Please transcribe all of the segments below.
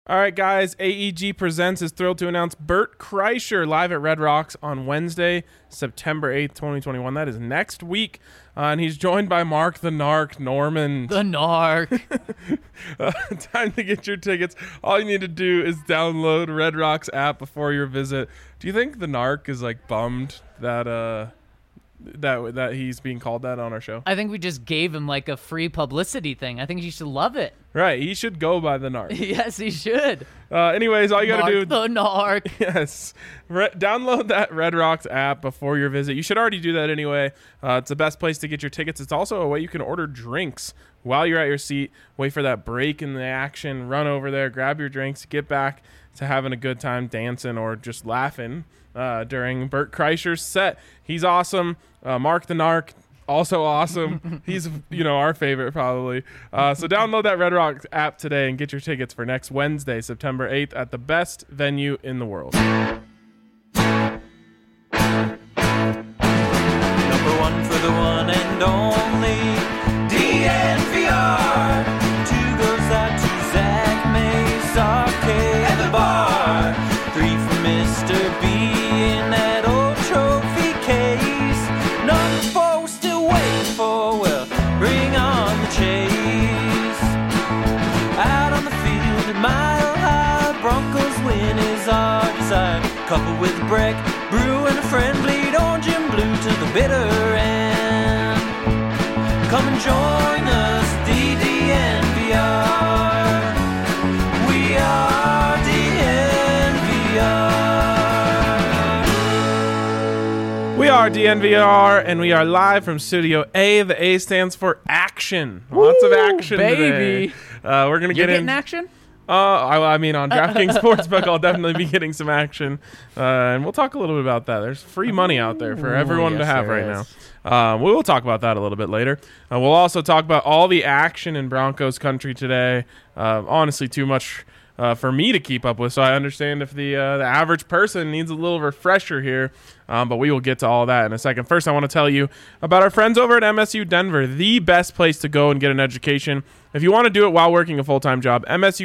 All right, guys, AEG Presents is thrilled to announce Bert Kreischer live at Red Rocks on Wednesday, September 8th, 2021. That is next week. And he's joined by Mark the Narc Norman. The Narc. Time to get your tickets. All you need to do is download Red Rocks app before your visit. Do you think the Narc is like bummed that that he's being called that on our show? I think we just gave him like a free publicity thing. I think he should love it. Right, he should go by the Narc. Yes, he should. Anyways, all you got to do... The Narc. Yes. Download that Red Rocks app before your visit. You should already do that anyway. It's the best place to get your tickets. It's also a way you can order drinks while you're at your seat. Wait for that break in the action. Run over there, grab your drinks, get back to having a good time dancing or just laughing during Bert Kreischer's set. He's awesome. Mark the Narc, also awesome. He's, our favorite probably. So download that Red Rocks app today and get your tickets for next Wednesday, September 8th at the best venue in the world. Number one for the one and only DNVR. Two goes out to Zach Mays Arcade and the bar. Three for Mr. B in that old trophy case. Number four still waiting for, well, bring on the chase. Out on the field at Mile High, Broncos win is our desire. Couple with Breck, Brew and a friend, bleed orange and blue to the bitter end. Come and join us, DNVR. We are DNVR. We are DNVR, and we are live from Studio A. The A stands for action. Lots of action baby. today. We're going to You're get getting in... action? I mean, on DraftKings Sportsbook, I'll definitely be getting some action. And we'll talk a little bit about that. There's free money out there for everyone to have right now. We will talk about that a little bit later. We'll also talk about all the action in Broncos country today. Honestly, too much for me to keep up with, so I understand if the average person needs a little refresher here. But we will get to all that in a second. First, I want to tell you about our friends over at MSU Denver, the best place to go and get an education. If you want to do it while working a full-time job,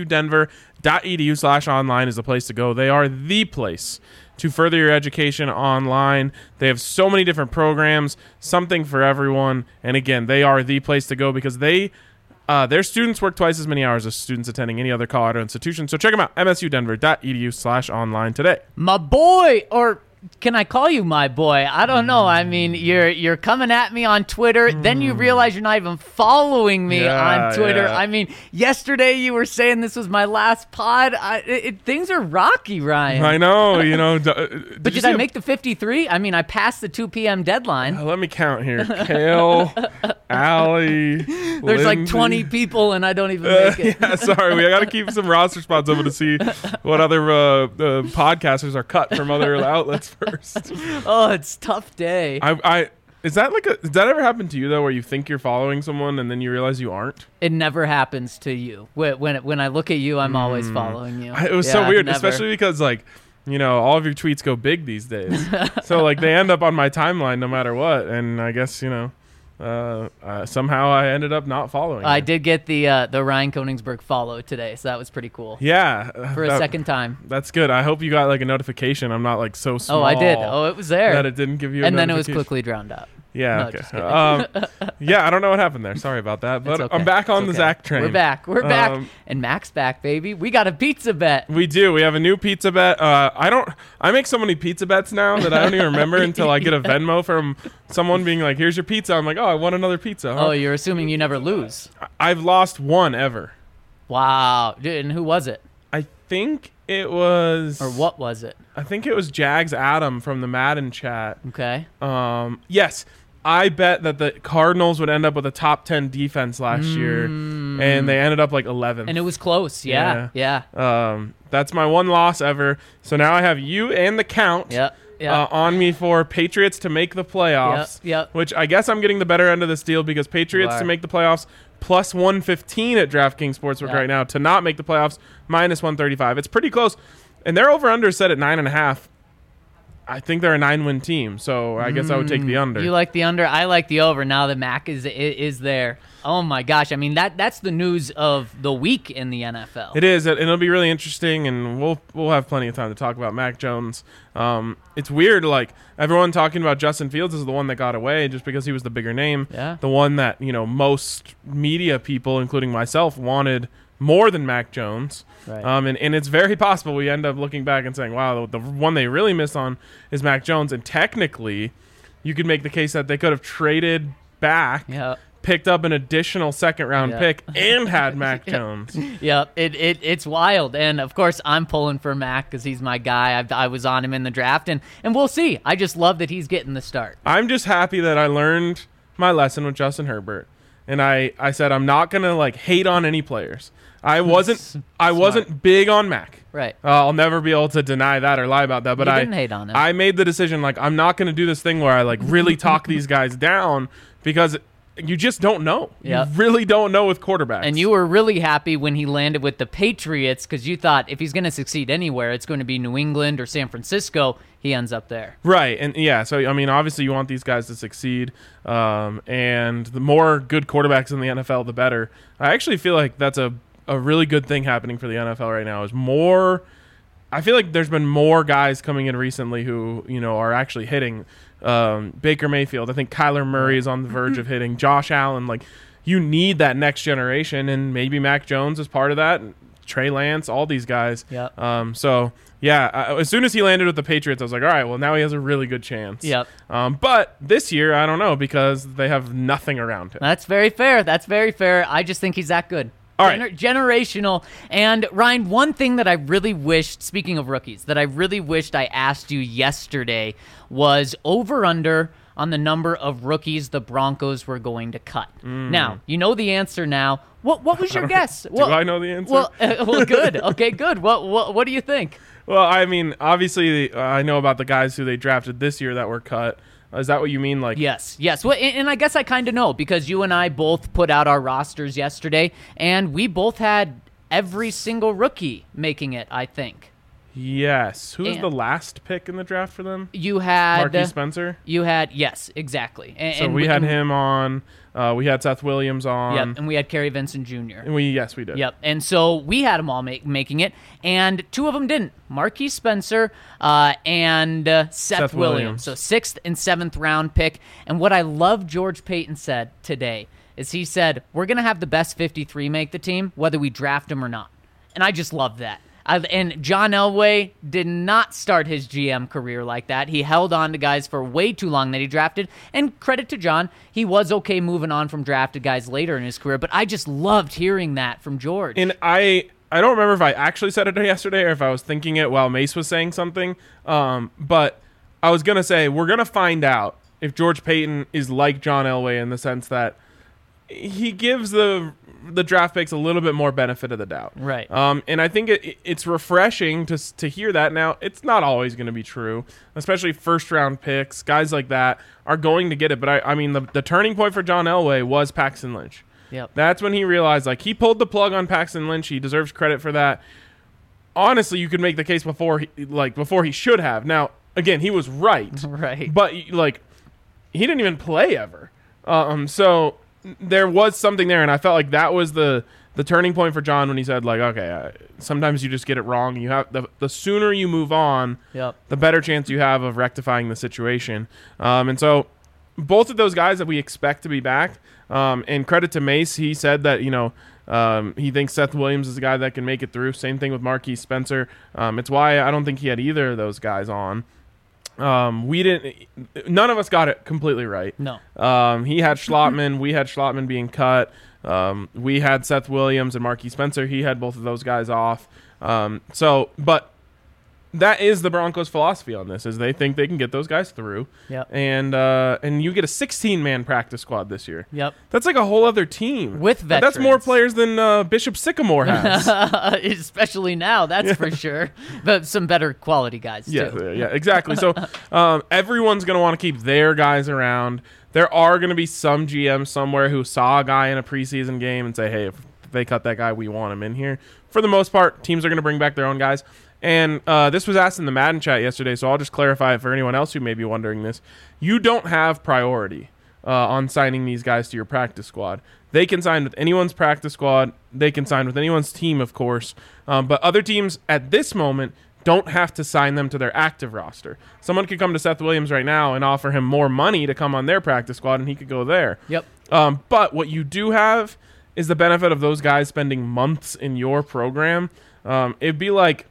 msudenver.edu/online is the place to go. They are the place to further your education online. They have so many different programs, something for everyone. And again, they are the place to go because their students work twice as many hours as students attending any other Colorado institution. So check them out, msudenver.edu/online today. My boy, or can I call you my boy? I don't know. I mean, you're coming at me on Twitter. Then you realize you're not even following me on Twitter. Yeah. I mean, yesterday you were saying this was my last pod. Things are rocky, Ryan. I know, But did I make the 53? I mean, I passed the 2 p.m. deadline. Let me count here. Kale, Allie, There's like 20 people, and I don't even make it. Yeah, sorry. We got to keep some roster spots open to see what other podcasters are cut from other outlets first. Oh, it's a tough day. Does that ever happen to you, though, where you think you're following someone and then you realize you aren't? It never happens to you. When I look at you, I'm always following you. It was so weird, especially because, all of your tweets go big these days. So, they end up on my timeline no matter what. And I guess, somehow I ended up not following I you. did get the Ryan Koenigsberg follow today, so that was pretty cool. Yeah. For a second time. That's good. I hope you got, a notification. I'm not, so small. Oh, I did. Oh, it was there. That it didn't give you a And then it was notification. quickly drowned out. Yeah, No, okay. just kidding. Yeah, I don't know what happened there. Sorry about that. But It's okay. I'm back on It's the okay. Zach train. We're back. And Mac's back, baby. We got a pizza bet. We do. We have a new pizza bet. I make so many pizza bets now that I don't even remember until I get a Venmo from someone being like, here's your pizza. I'm like, oh, I want another pizza. Huh? Oh, you're assuming you never lose. I've lost one ever. Wow. Dude, and who was it? I think it was... Or what was it? I think it was Jags Adam from the Madden chat. Okay. Yes. I bet that the Cardinals would end up with a top 10 defense last year, and they ended up 11th. And it was close. Yeah. That's my one loss ever. So now I have you and the count on me for Patriots to make the playoffs, Yep. which I guess I'm getting the better end of this deal because Patriots to make the playoffs plus 115 at DraftKings Sportsbook right now. To not make the playoffs, minus 135. It's pretty close. And their over-under is set at 9.5. I think they're a 9-win team, so I guess I would take the under. You like the under? I like the over now that Mac is there. Oh, my gosh. I mean, that's the news of the week in the NFL. It is, and it'll be really interesting, and we'll have plenty of time to talk about Mac Jones. It's weird, like, everyone talking about Justin Fields is the one that got away just because he was the bigger name. Yeah. The one that, most media people, including myself, wanted more than Mac Jones. Right. And it's very possible we end up looking back and saying, wow, the one they really missed on is Mac Jones. And technically, you could make the case that they could have traded back, picked up an additional second-round pick, and had Mac Jones. Yep, it's wild. And, of course, I'm pulling for Mac because he's my guy. I was on him in the draft, and we'll see. I just love that he's getting the start. I'm just happy that I learned my lesson with Justin Herbert. And I said I'm not going to, hate on any players. I wasn't big on Mac. Right. I'll never be able to deny that or lie about that. But you didn't hate on him. I made the decision, I'm not going to do this thing where I, really talk these guys down because you just don't know. Yep. You really don't know with quarterbacks. And you were really happy when he landed with the Patriots because you thought if he's going to succeed anywhere, it's going to be New England or San Francisco. He ends up there. Right. And, so, obviously you want these guys to succeed. And the more good quarterbacks in the NFL, the better. I actually feel like that's a really good thing happening for the NFL right now is more – I feel like there's been more guys coming in recently who, are actually hitting. Baker Mayfield. I think Kyler Murray is on the verge of hitting. Josh Allen. You need that next generation, and maybe Mac Jones is part of that. Trey Lance, all these guys. Yep. As soon as he landed with the Patriots, I was like, all right, well, now he has a really good chance. Yep. But this year, I don't know because they have nothing around him. That's very fair. I just think he's that good. All right. Generational. And, Ryan, one thing that I really wished, speaking of rookies, that I really wished I asked you yesterday was over-under on the number of rookies the Broncos were going to cut. Now, you know the answer now. What was your guess? Do I know the answer? Well, good. Okay, good. What do you think? Well, obviously, I know about the guys who they drafted this year that were cut. Is that what you mean? Yes. Well, and I guess I kind of know because you and I both put out our rosters yesterday, and we both had every single rookie making it, I think. Yes. Who was the last pick in the draft for them? You had Marquise Spencer? Yes, exactly. So we had him on. We had Seth Williams on. Yep, and we had Kerry Vincent Jr. And we did. Yep, and so we had them all making it, and two of them didn't. Marquise Spencer and Seth Williams. So 6th and 7th round pick. And what I love George Paton said today is he said, we're going to have the best 53 make the team, whether we draft them or not. And I just love that. And John Elway did not start his GM career like that. He held on to guys for way too long that he drafted. And credit to John, he was okay moving on from drafted guys later in his career. But I just loved hearing that from George. And I don't remember if I actually said it yesterday or if I was thinking it while Mace was saying something. But I was going to say we're going to find out if George Paton is like John Elway in the sense that he gives the draft picks a little bit more benefit of the doubt. Right. And I think it's refreshing to hear that. Now, it's not always going to be true, especially first-round picks. Guys like that are going to get it. But, the turning point for John Elway was Paxton Lynch. Yep. That's when he realized, he pulled the plug on Paxton Lynch. He deserves credit for that. Honestly, you could make the case before he should have. Now, again, he was right. Right. But, he didn't even play ever. So there was something there, and I felt like that was the turning point for John when he said, okay, sometimes you just get it wrong. You have the sooner you move on, the better chance you have of rectifying the situation. And so both of those guys that we expect to be back, and credit to Mace, he said that, he thinks Seth Williams is a guy that can make it through. Same thing with Marquise Spencer. It's why I don't think he had either of those guys on. None of us got it completely right. No. He had Schlottman. We had Schlottman being cut. We had Seth Williams and Marquise Spencer. He had both of those guys off. But that is the Broncos' philosophy on this, is they think they can get those guys through. Yep. And you get a 16-man practice squad this year. Yep. That's like a whole other team. With veterans. That's more players than Bishop Sycamore has. Especially now, that's for sure. But some better quality guys, too. Yeah, exactly. So everyone's going to want to keep their guys around. There are going to be some GMs somewhere who saw a guy in a preseason game and say, hey, if they cut that guy, we want him in here. For the most part, teams are going to bring back their own guys. And this was asked in the Madden chat yesterday, so I'll just clarify for anyone else who may be wondering this. You don't have priority on signing these guys to your practice squad. They can sign with anyone's practice squad. They can sign with anyone's team, of course. But other teams at this moment don't have to sign them to their active roster. Someone could come to Seth Williams right now and offer him more money to come on their practice squad, and he could go there. Yep. But what you do have is the benefit of those guys spending months in your program. It'd be like,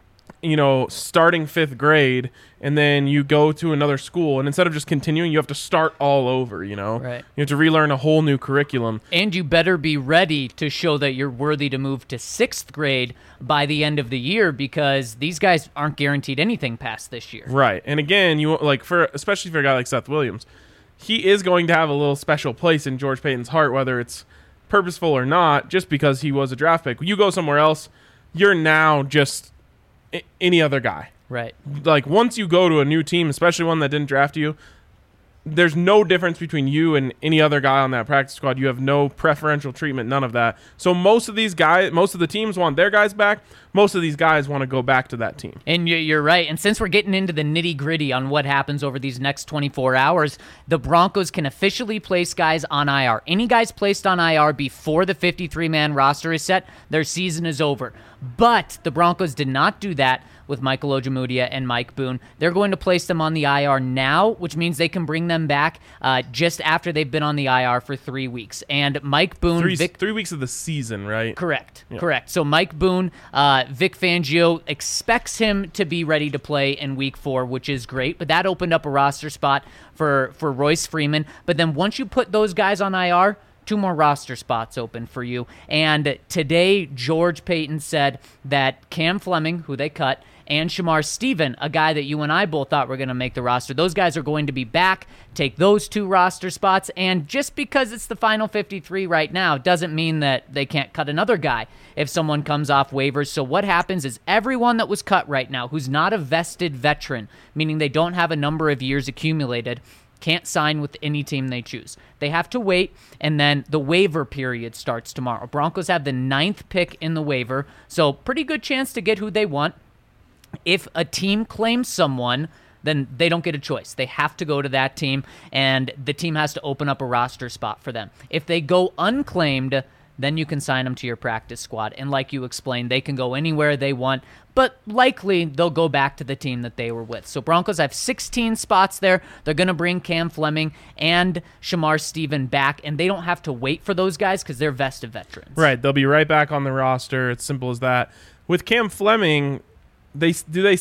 starting 5th grade, and then you go to another school, and instead of just continuing, you have to start all over, Right. You have to relearn a whole new curriculum. And you better be ready to show that you're worthy to move to 6th grade by the end of the year, because these guys aren't guaranteed anything past this year. Right. And again, especially for a guy like Seth Williams, he is going to have a little special place in George Paton's heart, whether it's purposeful or not, just because he was a draft pick. You go somewhere else, you're now just any other guy. Right. Like, once you go to a new team, especially one that didn't draft you, there's no difference between you and any other guy on that practice squad. You have no preferential treatment, none of that. So most of the teams want their guys back. Most of these guys want to go back to that team. And you're right. And since we're getting into the nitty-gritty on what happens over these next 24 hours, the Broncos can officially place guys on IR. Any guys placed on IR before the 53-man roster is set, their season is over. But the Broncos did not do that with Michael Ojemudia and Mike Boone. They're going to place them on the IR now, which means they can bring them back just after they've been on the IR for 3 weeks. And Mike Boone... 3 weeks of the season, right? Correct. So Mike Boone, Vic Fangio expects him to be ready to play in week 4, which is great. But that opened up a roster spot for Royce Freeman. But then once you put those guys on IR... 2 more roster spots open for you. And today, George Paton said that Cam Fleming, who they cut, and Shamar Stephen, a guy that you and I both thought were going to make the roster, those guys are going to be back, take those 2 roster spots. And just because it's the final 53 right now doesn't mean that they can't cut another guy if someone comes off waivers. So what happens is everyone that was cut right now who's not a vested veteran, meaning they don't have a number of years accumulated, can't sign with any team they choose. They have to wait, and then the waiver period starts tomorrow. Broncos have the 9th pick in the waiver, so pretty good chance to get who they want. If a team claims someone, then they don't get a choice. They have to go to that team, and the team has to open up a roster spot for them. If they go unclaimed, then you can sign them to your practice squad. And like you explained, they can go anywhere they want, but likely they'll go back to the team that they were with. So Broncos have 16 spots there. They're going to bring Cam Fleming and Shamar Stephen back, and they don't have to wait for those guys because they're vested veterans. Right. They'll be right back on the roster. It's simple as that. With Cam Fleming, they'll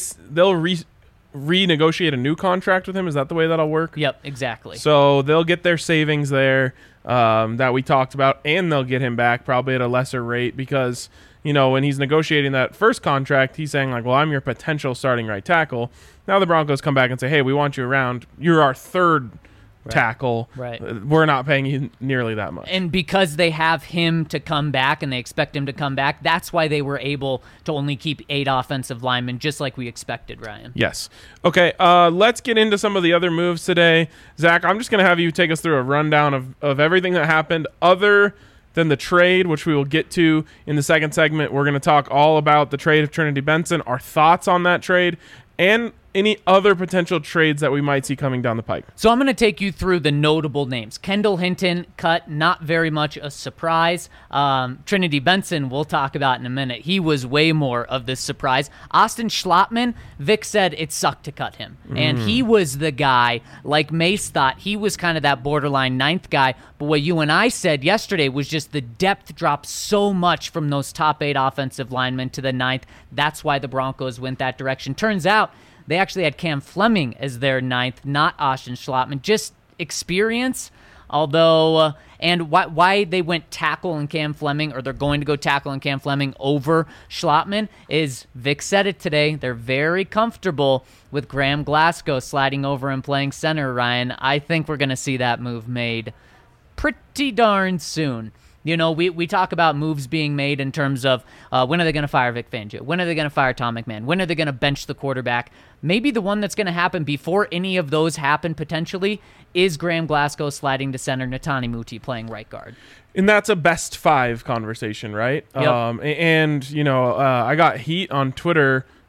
renegotiate a new contract with him. Is that the way that'll work? Yep, exactly. So they'll get their savings there that we talked about, and they'll get him back probably at a lesser rate because, when he's negotiating that first contract, he's saying like, well, I'm your potential starting right tackle. Now the Broncos come back and say, hey, we want you around. You're our third tackle. Right. We're not paying you nearly that much. And because they have him to come back and they expect him to come back, that's why they were able to only keep 8 offensive linemen, just like we expected, Ryan. Yes. Okay, let's get into some of the other moves today. Zach, I'm just going to have you take us through a rundown of everything that happened other than the trade, which we will get to in the second segment. We're going to talk all about the trade of Trinity Benson, our thoughts on that trade, and any other potential trades that we might see coming down the pike. So I'm going to take you through the notable names. Kendall Hinton cut, not very much a surprise. Trinity Benson, we'll talk about in a minute. He was way more of this surprise. Austin Schlottman, Vic said it sucked to cut him. And he was the guy, like Mace thought, he was kind of that borderline 9th guy. But what you and I said yesterday was just the depth dropped so much from those top 8 offensive linemen to the 9th. That's why the Broncos went that direction. Turns out, they actually had Cam Fleming as their 9th, not Austin Schlottman. Just experience, although, and why they went tackle and Cam Fleming, or they're going to go tackle and Cam Fleming over Schlottman, is Vic said it today. They're very comfortable with Graham Glasgow sliding over and playing center, Ryan. I think we're going to see that move made pretty darn soon. We talk about moves being made in terms of when are they going to fire Vic Fangio? When are they going to fire Tom McMahon? When are they going to bench the quarterback? Maybe the one that's going to happen before any of those happen potentially is Graham Glasgow sliding to center, Netani Muti playing right guard. And that's a best 5 conversation, right? Yep. I got heat on Twitter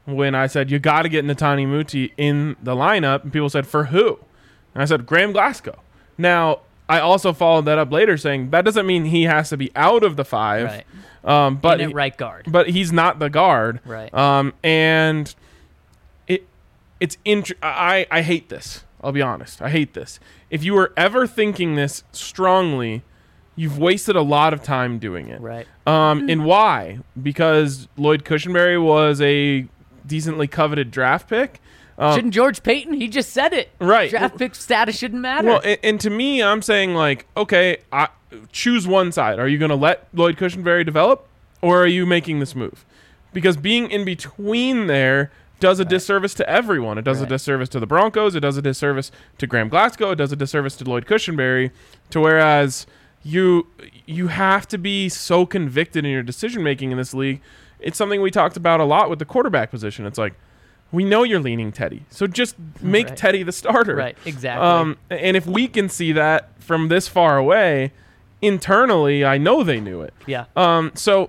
when I said you got to get Netani Muti in the lineup, and people said, for who? And I said, Graham Glasgow. Now, I also followed that up later saying that doesn't mean he has to be out of the 5. Right. But in at right guard. But he's not the guard. Right. And I hate this. I'll be honest. I hate this. If you were ever thinking this strongly, you've wasted a lot of time doing it. Right. And why? Because Lloyd Cushenberry was a decently coveted draft pick. Shouldn't George Payton? He just said it. Right. Draft pick status shouldn't matter. Well, and to me, I'm saying, like, okay, choose one side. Are you going to let Lloyd Cushenberry develop, or are you making this move? Because being in between there does a disservice to everyone. It does a disservice to the Broncos. It does a disservice to Graham Glasgow. It does a disservice to Lloyd Cushenberry. To whereas you have to be so convicted in your decision making in this league. It's something we talked about a lot with the quarterback position. It's like, we know you're leaning Teddy, so just make Teddy the starter. Right, exactly. And if we can see that from this far away, internally, I know they knew it. Yeah. So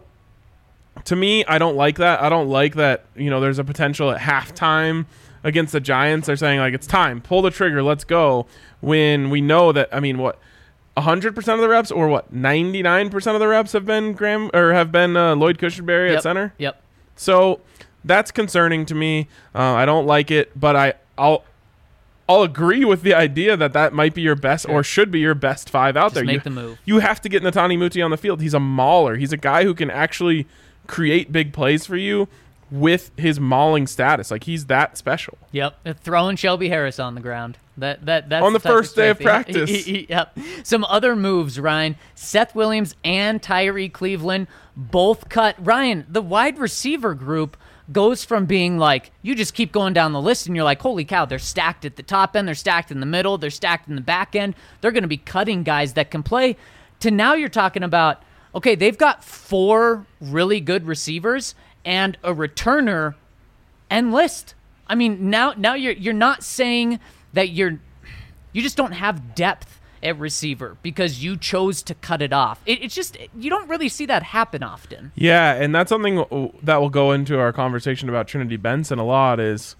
to me, I don't like that. I don't like that, there's a potential at halftime against the Giants. They're saying, like, it's time. Pull the trigger. Let's go. When we know that, 100% of the reps or 99% of the reps have been Lloyd Cushenberry at center? Yep. So that's concerning to me. I don't like it, but I'll agree with the idea that might be your best or should be your best 5 out there. Make the move. You have to get Netani Muti on the field. He's a mauler. He's a guy who can actually create big plays for you with his mauling status. Like, he's that special. Yep. Throwing Shelby Harris on the ground. That's on the first day of practice. Yep. Some other moves, Ryan. Seth Williams and Tyree Cleveland both cut. Ryan, the wide receiver group goes from being like, you just keep going down the list and you're like, holy cow, they're stacked at the top end, they're stacked in the middle, they're stacked in the back end, they're going to be cutting guys that can play, to now you're talking about, okay, they've got 4 really good receivers and a returner and list. I mean, now you're not saying that you just don't have depth at receiver because you chose to cut it off. It's just, you don't really see that happen often. Yeah, and that's something that will go into our conversation about Trinity Benson a lot is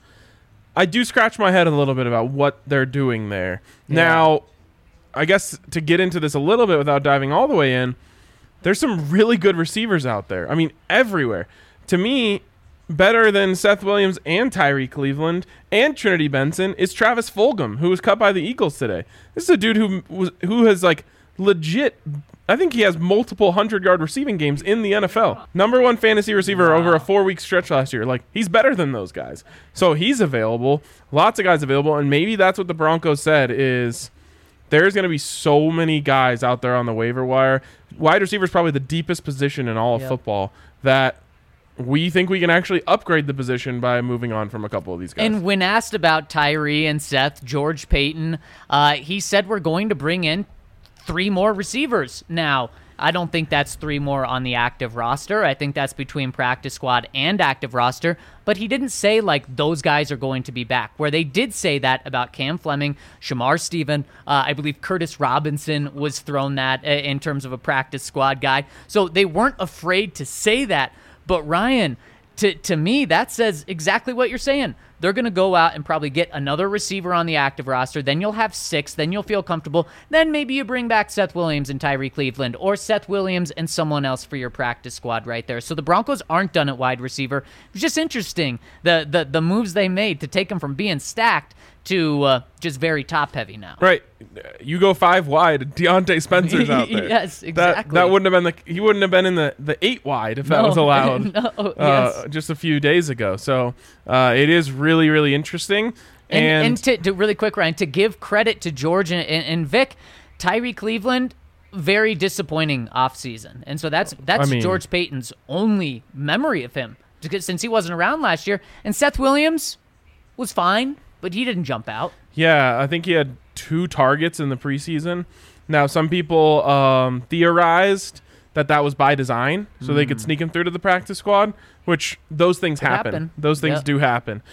I do scratch my head a little bit about what they're doing there. Yeah. Now, I guess to get into this a little bit without diving all the way in, there's some really good receivers out there. I mean, everywhere. To me, better than Seth Williams and Tyree Cleveland and Trinity Benson is Travis Fulgham, who was cut by the Eagles today. This is a dude who has, like, legit, I think he has multiple 100-yard receiving games in the NFL. Number 1 fantasy receiver over a 4-week stretch last year. Like, he's better than those guys. So he's available. Lots of guys available. And maybe that's what the Broncos said is there's going to be so many guys out there on the waiver wire. Wide receiver is probably the deepest position in all of football that we think we can actually upgrade the position by moving on from a couple of these guys. And when asked about Tyree and Seth, George Payton, he said we're going to bring in 3 more receivers. Now, I don't think that's 3 more on the active roster. I think that's between practice squad and active roster. But he didn't say, like, those guys are going to be back. Where they did say that about Cam Fleming, Shamar Stephen, I believe Curtis Robinson was thrown that in terms of a practice squad guy. So they weren't afraid to say that. But Ryan, to me, that says exactly what you're saying. They're going to go out and probably get another receiver on the active roster. Then you'll have 6. Then you'll feel comfortable. Then maybe you bring back Seth Williams and Tyree Cleveland, or Seth Williams and someone else for your practice squad right there. So the Broncos aren't done at wide receiver. It was just interesting, the moves they made to take them from being stacked to just very top-heavy now. Right. You go 5 wide, Deontay Spencer's out there. Yes, exactly. That wouldn't have been he wouldn't have been in the 8 wide if that was allowed just a few days ago. So it is really, really interesting. And to really quick, Ryan, to give credit to George and Vic, Tyree Cleveland, very disappointing offseason. And so that's George Payton's only memory of him since he wasn't around last year. And Seth Williams was fine, but he didn't jump out. Yeah, I think he had 2 targets in the preseason. Now, some people theorized that was by design, so they could sneak him through to the practice squad, which those things happen. Those things do happen.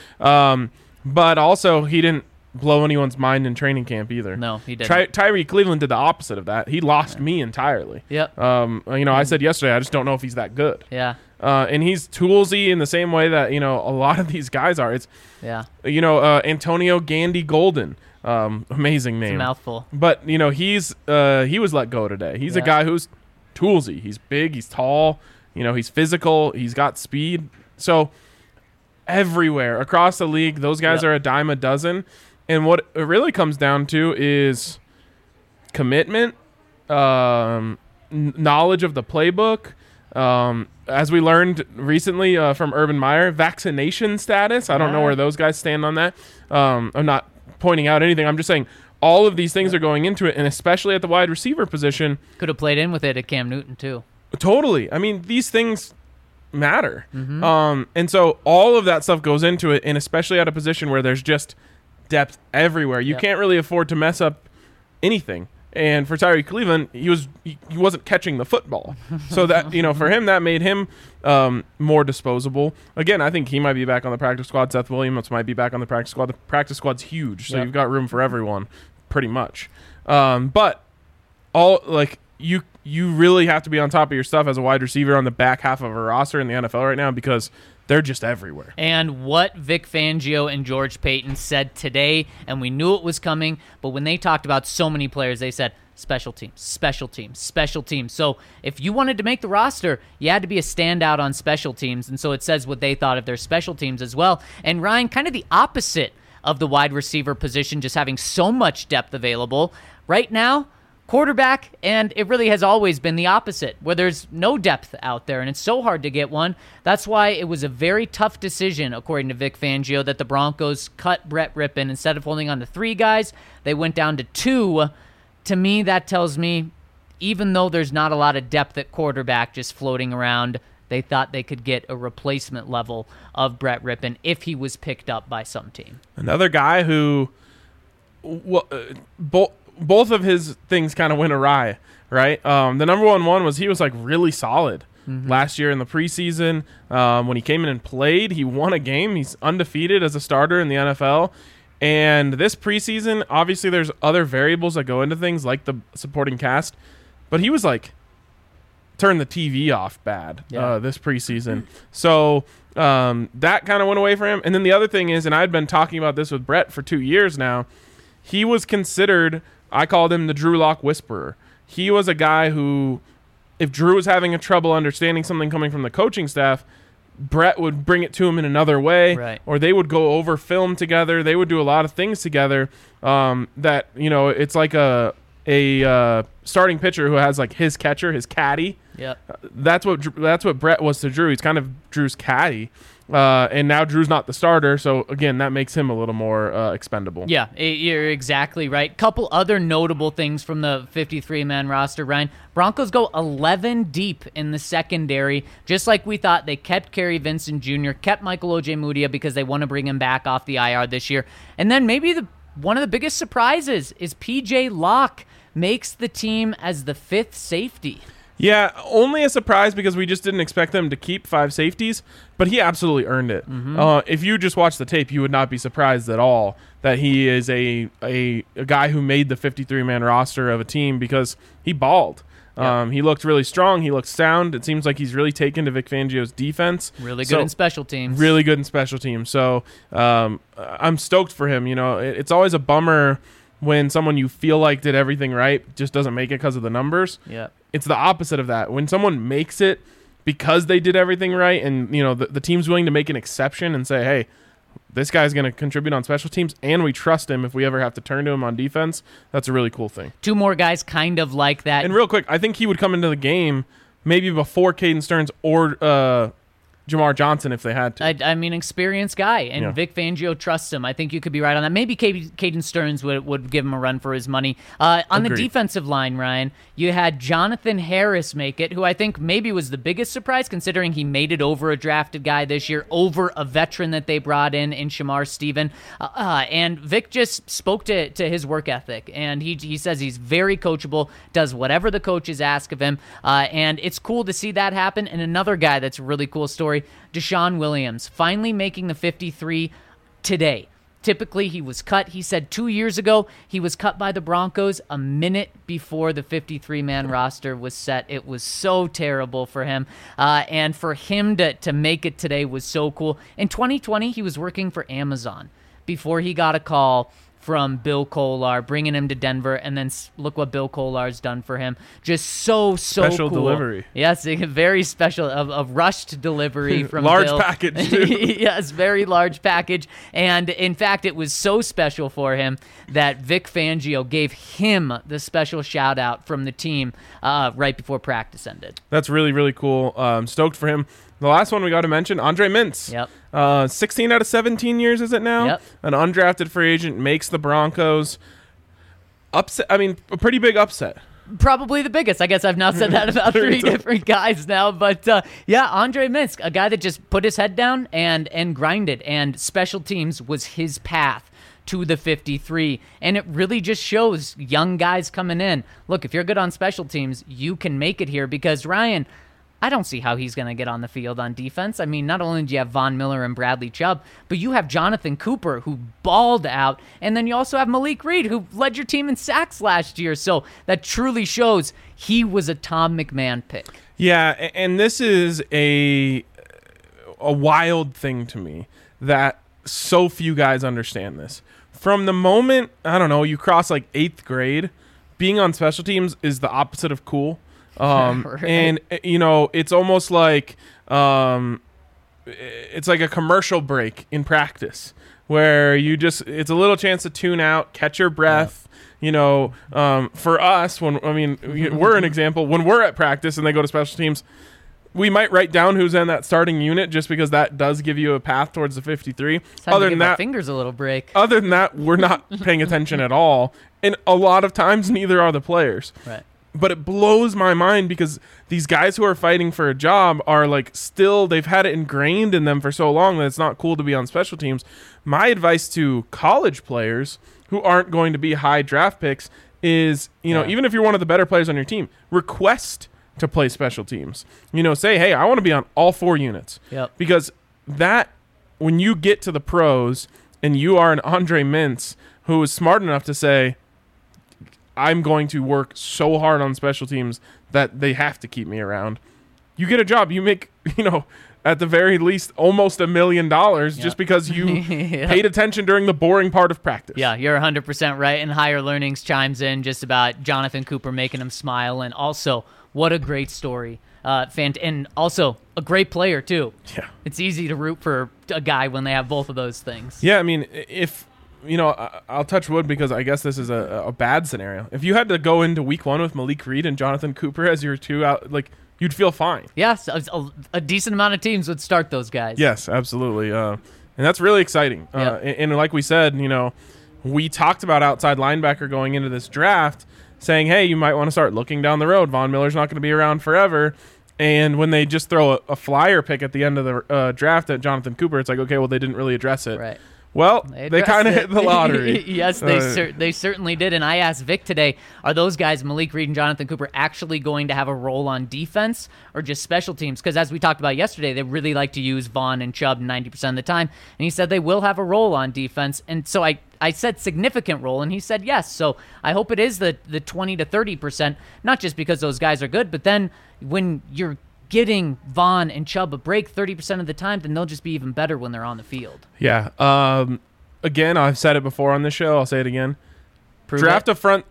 But also, he didn't blow anyone's mind in training camp either. No, he didn't. Tyree Cleveland did the opposite of that. He lost me entirely. Yep. I said yesterday, I just don't know if he's that good. Yeah. And he's toolsy in the same way that, a lot of these guys are. It's, Antonio Gandy Golden. Amazing name. It's a mouthful. But, he was let go today. He's a guy who's toolsy. He's big. He's tall. He's physical. He's got speed. So everywhere across the league, those guys are a dime a dozen. And what it really comes down to is commitment, knowledge of the playbook. As we learned recently from Urban Meyer, vaccination status. I don't know where those guys stand on that. I'm not pointing out anything. I'm just saying all of these things are going into it, and especially at the wide receiver position. Could have played in with it at Cam Newton, too. Totally. I mean, these things matter. And so all of that stuff goes into it, and especially at a position where there's just depth everywhere. You can't really afford to mess up anything. And for Tyree Cleveland, he wasn't catching the football. So that, for him, that made him more disposable. Again, I think he might be back on the practice squad. Seth Williams might be back on the practice squad. The practice squad's huge, so you've got room for everyone, pretty much. But you really have to be on top of your stuff as a wide receiver on the back half of a roster in the NFL right now, because they're just everywhere. And what Vic Fangio and George Paton said today, and we knew it was coming, but when they talked about so many players, they said special teams, special teams, special teams. So if you wanted to make the roster, you had to be a standout on special teams, and so it says what they thought of their special teams as well. And Ryan, kind of the opposite of the wide receiver position, just having so much depth available. Right now, quarterback, and it really has always been the opposite, where there's no depth out there, and it's so hard to get one. That's why it was a very tough decision, according to Vic Fangio, that the Broncos cut Brett Rypien. Instead of holding on to 3 guys, they went down to 2. To me, that tells me, even though there's not a lot of depth at quarterback just floating around, they thought they could get a replacement level of Brett Rypien if he was picked up by some team. Another guy who both of his things kind of went awry, right? The number one was he was really solid last year in the preseason. When he came in and played, he won a game. He's undefeated as a starter in the NFL. And this preseason, obviously there's other variables that go into things like the supporting cast, but he was turn the TV off bad this preseason. So that kind of went away for him. And then the other thing is, and I'd been talking about this with Brett for 2 years now, he was considered, I called him the Drew Lock whisperer. He was a guy who, if Drew was having a trouble understanding something coming from the coaching staff, Brett would bring it to him in another way, or they would go over film together. They would do a lot of things together that, it's like a starting pitcher who has his catcher, his caddy. That's what Brett was to Drew. He's kind of Drew's caddy. And now Drew's not the starter, so again, that makes him a little more expendable. Yeah, you're exactly right. Couple other notable things from the 53-man roster, Ryan. Broncos go 11 deep in the secondary, just like we thought. They kept Kerry Vincent Jr., kept Michael Ojemudia because they want to bring him back off the IR this year. And then maybe one of the biggest surprises is P.J. Locke makes the team as the 5th safety. Yeah, only a surprise because we just didn't expect them to keep 5 safeties, but he absolutely earned it. If you just watch the tape, you would not be surprised at all that he is a guy who made the 53-man roster of a team because he balled. He looked really strong. He looked sound. It seems like he's really taken to Vic Fangio's defense. Really good in special teams. Really good in special teams. So I'm stoked for him. It's always a bummer when someone you feel like did everything right just doesn't make it because of the numbers. It's the opposite of that. When someone makes it because they did everything right, and the team's willing to make an exception and say, hey, this guy's going to contribute on special teams, and we trust him if we ever have to turn to him on defense, that's a really cool thing. 2 more guys kind of like that. And real quick, I think he would come into the game maybe before Caden Stearns or Jamar Johnson if they had to. I mean, experienced guy, and Vic Fangio trusts him. I think you could be right on that. Maybe Caden Stearns would give him a run for his money. On the defensive line, Ryan, you had Jonathan Harris make it, who I think maybe was the biggest surprise considering he made it over a drafted guy this year, over a veteran that they brought in Shamar Stephen. And Vic just spoke to his work ethic, and he says he's very coachable, does whatever the coaches ask of him, and it's cool to see that happen. And another guy that's a really cool story, Deshaun Williams, finally making the 53 today. Typically, he was cut. He said 2 years ago he was cut by the Broncos a minute before the 53-man roster was set. It was so terrible for him. And for him to make it today was so cool. In 2020, he was working for Amazon before he got a call from Bill Kolar, bringing him to Denver, and then look what Bill Kolar's done for him. Just so special cool. Delivery. Yes, a very special, a rushed delivery from large Bill. package, too. Yes, very large package. And in fact, it was so special for him that Vic Fangio gave him the special shout out from the team right before practice ended. That's really, really cool. Stoked for him. The last one we got to mention, Andre Mintz. Yep. 16 out of 17 years, is it now? Yep. An undrafted free agent makes the Broncos upset. I mean, a pretty big upset. Probably the biggest. I guess I've now said that about three different guys now. But yeah, Andre Mintz, a guy that just put his head down and grinded, and special teams was his path to the 53. And it really just shows young guys coming in. Look, if you're good on special teams, you can make it here, because Ryan, I don't see how he's going to get on the field on defense. I mean, not only do you have Von Miller and Bradley Chubb, but you have Jonathan Cooper, who balled out, and then you also have Malik Reed, who led your team in sacks last year. So that truly shows he was a Tom McMahon pick. Yeah, and this is a wild thing to me that so few guys understand this. From the moment, I don't know, you cross like 8th grade, being on special teams is the opposite of cool. Right. And it's almost like it's like a commercial break in practice where it's a little chance to tune out, catch your breath. Yeah. For us, we're an example. When we're at practice and they go to special teams, we might write down who's in that starting unit just because that does give you a path towards the 53. Other than that, fingers a little break. Other than that, we're not paying attention at all. And a lot of times, neither are the players. Right. But it blows my mind because these guys who are fighting for a job are like they've had it ingrained in them for so long that it's not cool to be on special teams. My advice to college players who aren't going to be high draft picks is, even if you're one of the better players on your team, request to play special teams. Say, hey, I want to be on all 4 units. Yep. Because when you get to the pros and you are an Andre Mintz who is smart enough to say, I'm going to work so hard on special teams that they have to keep me around. You get a job. You make, at the very least, almost $1 million just because you paid attention during the boring part of practice. Yeah, you're 100% right. And Higher Learnings chimes in just about Jonathan Cooper making him smile. And also, what a great story. And also, a great player, too. Yeah. It's easy to root for a guy when they have both of those things. Yeah, I mean, if... I'll touch wood because I guess this is a bad scenario. If you had to go into week 1 with Malik Reed and Jonathan Cooper as your 2 out, you'd feel fine. Yes, a decent amount of teams would start those guys. Yes, absolutely. And that's really exciting. Yep. And like we said, we talked about outside linebacker going into this draft, saying, hey, you might want to start looking down the road. Von Miller's not going to be around forever. And when they just throw a flyer pick at the end of the draft at Jonathan Cooper, it's like, okay, well, they didn't really address it. Right. Well, they kind of hit the lottery. Yes, they certainly did. And I asked Vic today, are those guys, Malik Reed and Jonathan Cooper, actually going to have a role on defense or just special teams? Because as we talked about yesterday, they really like to use Vaughn and Chubb 90% of the time. And he said they will have a role on defense. And so I said significant role, and he said yes. So I hope it is the 20 to 30%, not just because those guys are good, but then when you're getting Vaughn and Chubb a break 30% of the time, then they'll just be even better when they're on the field. Yeah. Again, I've said it before on this show. I'll say it again. Draft a front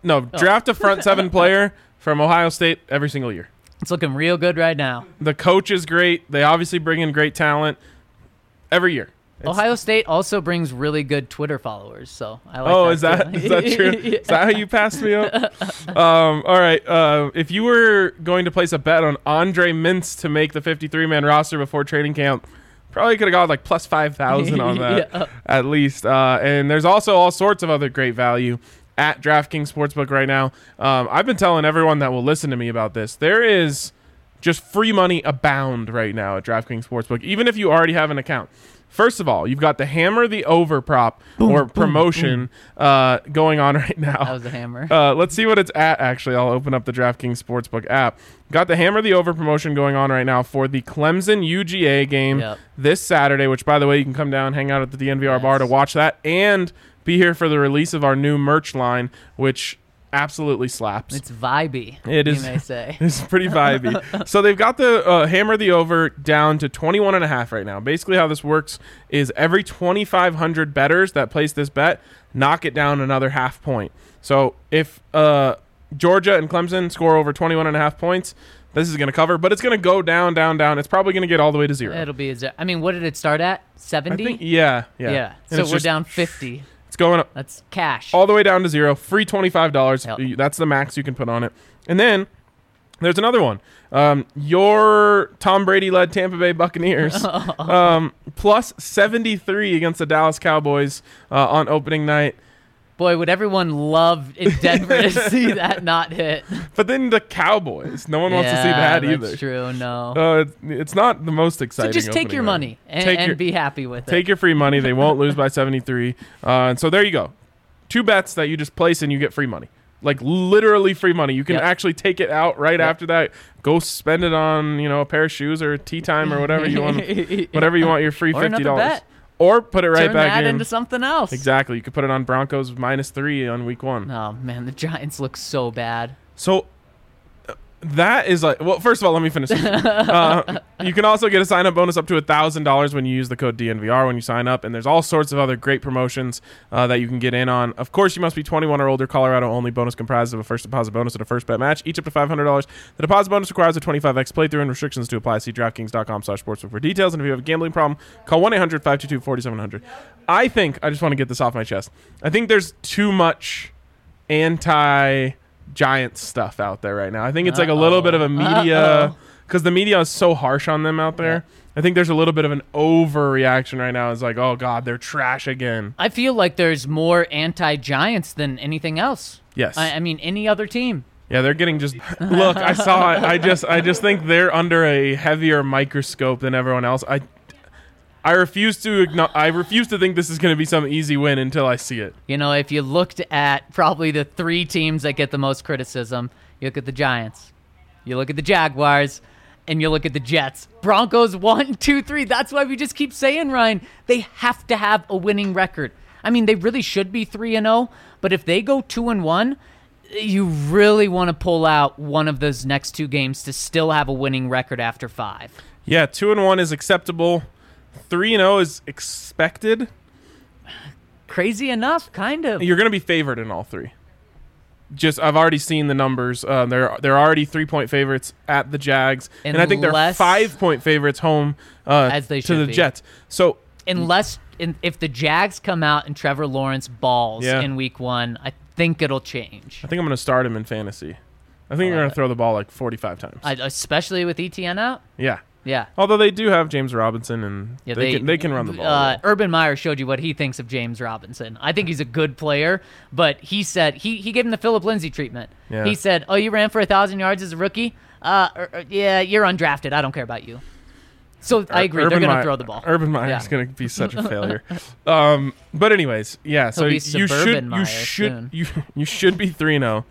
7 player from Ohio State every single year. It's looking real good right now. The coach is great. They obviously bring in great talent every year. Ohio State also brings really good Twitter followers, so I like that. Is that true? Yeah. Is that how you passed me up? All right. If you were going to place a bet on Andre Mintz to make the 53-man roster before training camp, probably could have got like plus 5,000 on that at least. And there's also all sorts of other great value at DraftKings Sportsbook right now. I've been telling everyone that will listen to me about this. There is just free money abound right now at DraftKings Sportsbook, even if you already have an account. First of all, you've got the hammer the over prop promotion going on right now. That was a hammer. Let's see what it's at, actually. I'll open up the DraftKings Sportsbook app. Got the hammer the over promotion going on right now for the Clemson UGA game this Saturday, which, by the way, you can come down, hang out at the DNVR bar to watch that, and be here for the release of our new merch line, which absolutely slaps. It's vibey. It is. You may say. It's pretty vibey. So they've got the hammer the over down to 21.5 right now. Basically, how this works is every 2,500 bettors that place this bet knock it down another half point. So if Georgia and Clemson score over 21.5 points, this is going to cover, but it's going to go down, down, down. It's probably going to get all the way to 0. It'll be. I mean, what did it start at? 70. Yeah. So we're down 50. It's going up. That's cash. All the way down to 0. Free $25. Yep. That's the max you can put on it. And then there's another one. Your Tom Brady-led Tampa Bay Buccaneers plus 73 against the Dallas Cowboys on opening night. Boy, would everyone love in Denver to see that not hit. But then the Cowboys. No one wants to see that either. That's true, no. It's not the most exciting. So just take your money and be happy with it. Take your free money. They won't lose by 73. And so there you go. 2 bets that you just place and you get free money. Like literally free money. You can actually take it out right after that. Go spend it on, a pair of shoes or tea time or whatever you want. Whatever you want your free $50. Bet. Or put it right Turn back that in. into something else. Exactly. You could put it on Broncos -3 on week 1. Oh, man, the Giants look so bad. So that is like, well, first of all, let me finish. You can also get a sign-up bonus up to $1,000 when you use the code DNVR when you sign up, and there's all sorts of other great promotions that you can get in on. Of course, you must be 21 or older. Colorado only. Bonus comprised of a first deposit bonus and a first bet match, each up to $500. The deposit bonus requires a 25x playthrough and restrictions to apply. See DraftKings.com/sportsbook for details. And if you have a gambling problem, call 1-800-522-4700. I just want to get this off my chest. I think there's too much Giants stuff out there right now. I think it's like a little bit of a media, because the media is so harsh on them out there. Yeah. I think there's a little bit of an overreaction right now. It's like, oh God, they're trash again. I feel like there's more anti-Giants than anything else. Yes. I mean, any other team. Yeah, they're getting just look. I saw it. I just think they're under a heavier microscope than everyone else. I refuse to think this is going to be some easy win until I see it. If you looked at probably the 3 teams that get the most criticism, you look at the Giants, you look at the Jaguars, and you look at the Jets. Broncos 1, 2, 3. That's why we just keep saying, Ryan, they have to have a winning record. I mean, they really should be 3-0, but if they go 2-1, you really want to pull out one of those next 2 games to still have a winning record after 5. Yeah, 2-1 is acceptable. 3-0 is expected. Crazy enough, kind of. You're going to be favored in all 3. I've already seen the numbers. They're already 3-point favorites at the Jags, and I think they're 5-point favorites home as they should to the be. Jets. So if the Jags come out and Trevor Lawrence balls in week 1, I think it'll change. I think I'm going to start him in fantasy. I think you're going to throw the ball like 45 times, especially with ETN out. Yeah. Although they do have James Robinson, and they can run the ball. Urban Meyer showed you what he thinks of James Robinson. I think he's a good player, but he said he gave him the Philip Lindsay treatment. Yeah. He said, "Oh, you ran for 1,000 yards as a rookie? Yeah, you're undrafted. I don't care about you." So I agree. They're going to throw the ball. Urban Meyer is going to be such a failure. But anyways, yeah. So you should be 3-0.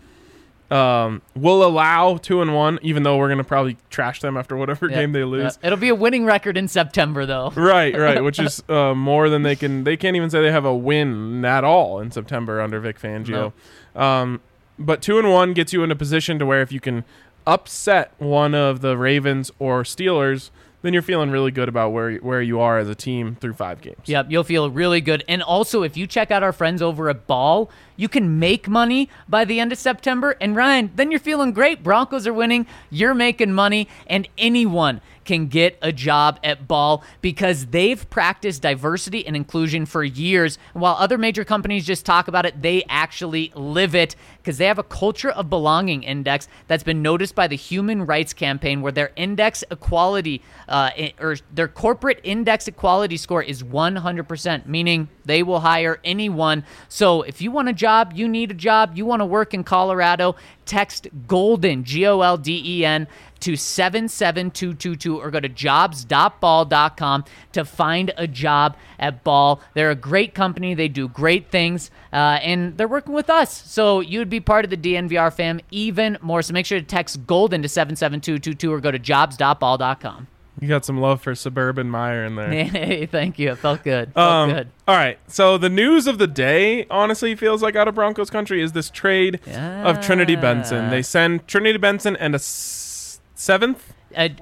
We'll allow 2-1, even though we're going to probably trash them after whatever game they lose. It'll be a winning record in September, though. Right, which is more than they can't even say they have a win at all in September under Vic Fangio. No. But 2-1 gets you in a position to where if you can upset one of the Ravens or Steelers, then you're feeling really good about where you are as a team through 5 games. Yep, you'll feel really good. And also, if you check out our friends over at Ball, you can make money by the end of September. And Ryan, then you're feeling great. Broncos are winning, you're making money, and anyone can get a job at Ball because they've practiced diversity and inclusion for years. While other major companies just talk about it, they actually live it because they have a culture of belonging index that's been noticed by the Human Rights Campaign, where their index equality or their corporate index equality score is 100%, meaning they will hire anyone. So if you want a job, you need a job, you want to work in Colorado, text GOLDEN, GOLDEN, to 77222 or go to jobs.ball.com to find a job at Ball. They're a great company. They do great things, and they're working with us. So you'd be part of the DNVR fam even more. So make sure to text GOLDEN to 77222 or go to jobs.ball.com. You got some love for Suburban Meyer in there. Hey, thank you. It felt good. Felt good. All right. So the news of the day, honestly, feels like out of Broncos country is this trade of Trinity Benson. They send Trinity Benson and a seventh?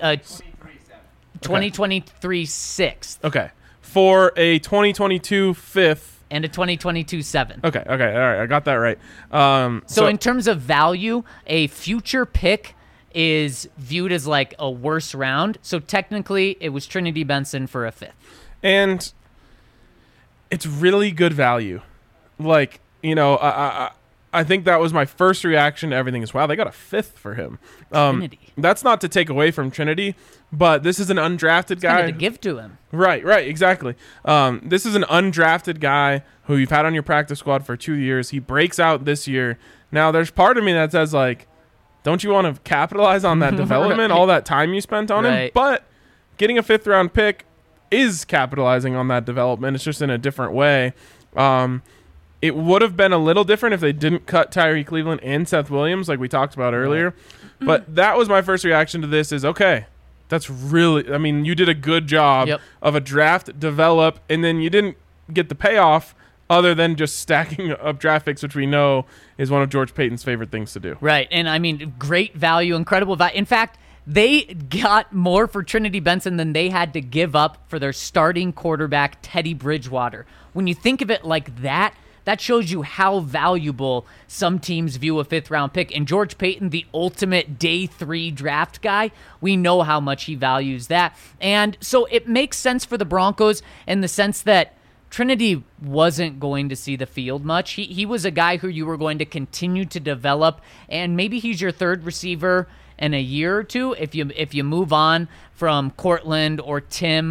2023 sixth. Okay. For a 2022 fifth. And a 2022 seventh. Okay. All right. I got that right. So in terms of value, a future pick is viewed as like a worse round. So technically, it was Trinity Benson for a fifth. And it's really good value. Like, you know, I think that was my first reaction to everything is, wow, they got a fifth for him. Trinity. That's not to take away from Trinity, but this is an undrafted guy. To give to him. Right, exactly. This is an undrafted guy who you've had on your practice squad for 2 years. He breaks out this year. Now, there's part of me that says, like, don't you want to capitalize on that development, all that time you spent on him? But getting a fifth-round pick is capitalizing on that development. It's just in a different way. It would have been a little different if they didn't cut Tyree Cleveland and Seth Williams like we talked about earlier. But that was my first reaction to this is, okay, that's really – I mean, you did a good job of a draft, develop, and then you didn't get the payoff other than just stacking up draft picks, which we know is one of George Paton's favorite things to do. Right, and I mean, great value, incredible value. In fact, they got more for Trinity Benson than they had to give up for their starting quarterback, Teddy Bridgewater. When you think of it like that, that shows you how valuable some teams view a fifth-round pick. And George Paton, the ultimate day 3 draft guy, we know how much he values that. And so it makes sense for the Broncos in the sense that Trinity wasn't going to see the field much. He was a guy who you were going to continue to develop, and maybe he's your third receiver in a year or two if you move on from Cortland or Tim.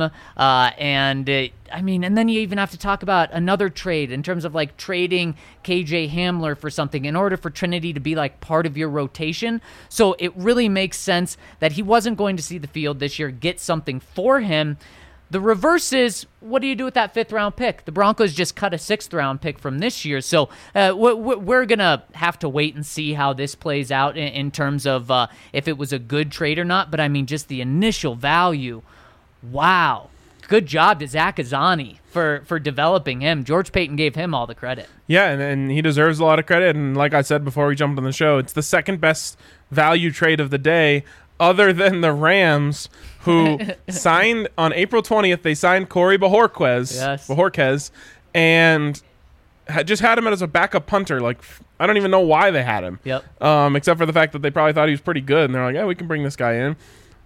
And then you even have to talk about another trade in terms of like trading KJ Hamler for something in order for Trinity to be like part of your rotation. So it really makes sense that he wasn't going to see the field this year. Get something for him. The reverse is, what do you do with that fifth-round pick? The Broncos just cut a sixth-round pick from this year, so we're going to have to wait and see how this plays out in terms of if it was a good trade or not, but I mean, just the initial value, wow. Good job to Zach Azzanni for developing him. George Paton gave him all the credit. Yeah, and he deserves a lot of credit, and like I said before we jumped on the show, it's the second best value trade of the day, other than the Rams, who signed on April 20th. They signed Corey Bojorquez, and just had him as a backup punter. Like, I don't even know why they had him. Except for the fact that they probably thought he was pretty good, and they're like, yeah, we can bring this guy in.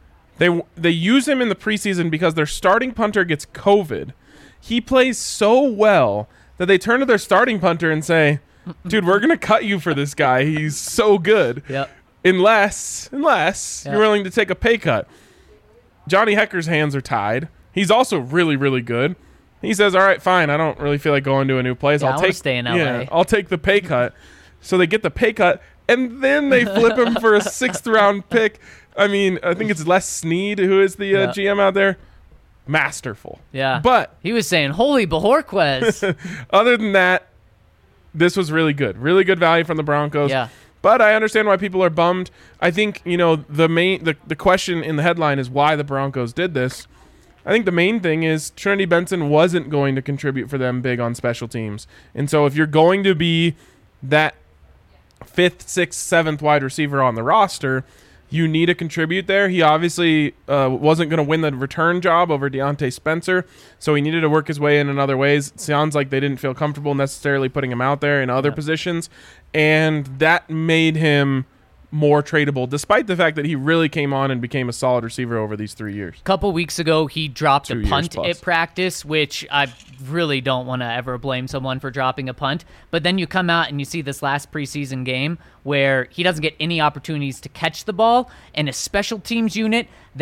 They use him in the preseason because their starting punter gets COVID. He plays so well that they turn to their starting punter and say, dude, we're going to cut you for this guy. He's so good. Unless you're willing to take a pay cut. Johnny Hecker's hands are tied. He's also really, really good. He says, all right, fine. I don't really feel like going to a new place. I'll stay in LA. Yeah, I'll take the pay cut. So they get the pay cut, and then they flip him for a sixth-round pick. I mean, I think it's Les Snead, who is the GM out there. Masterful. Yeah. But he was saying, holy Bojorquez. Other than that, this was really good. Really good value from the Broncos. Yeah. But I understand why people are bummed. I think, the question in the headline is why the Broncos did this. I think the main thing is Trinity Benson wasn't going to contribute for them big on special teams. And so if you're going to be that 5th, 6th, 7th wide receiver on the roster, you need to contribute there. He obviously wasn't going to win the return job over Deontay Spencer, so he needed to work his way in other ways. It sounds like they didn't feel comfortable necessarily putting him out there in other positions, and that made him more tradable, despite the fact that he really came on and became a solid receiver over these 3 years. A couple weeks ago, he dropped a punt at practice, which I really don't want to ever blame someone for dropping a punt. But then you come out and you see this last preseason game where he doesn't get any opportunities to catch the ball, and a special teams unit that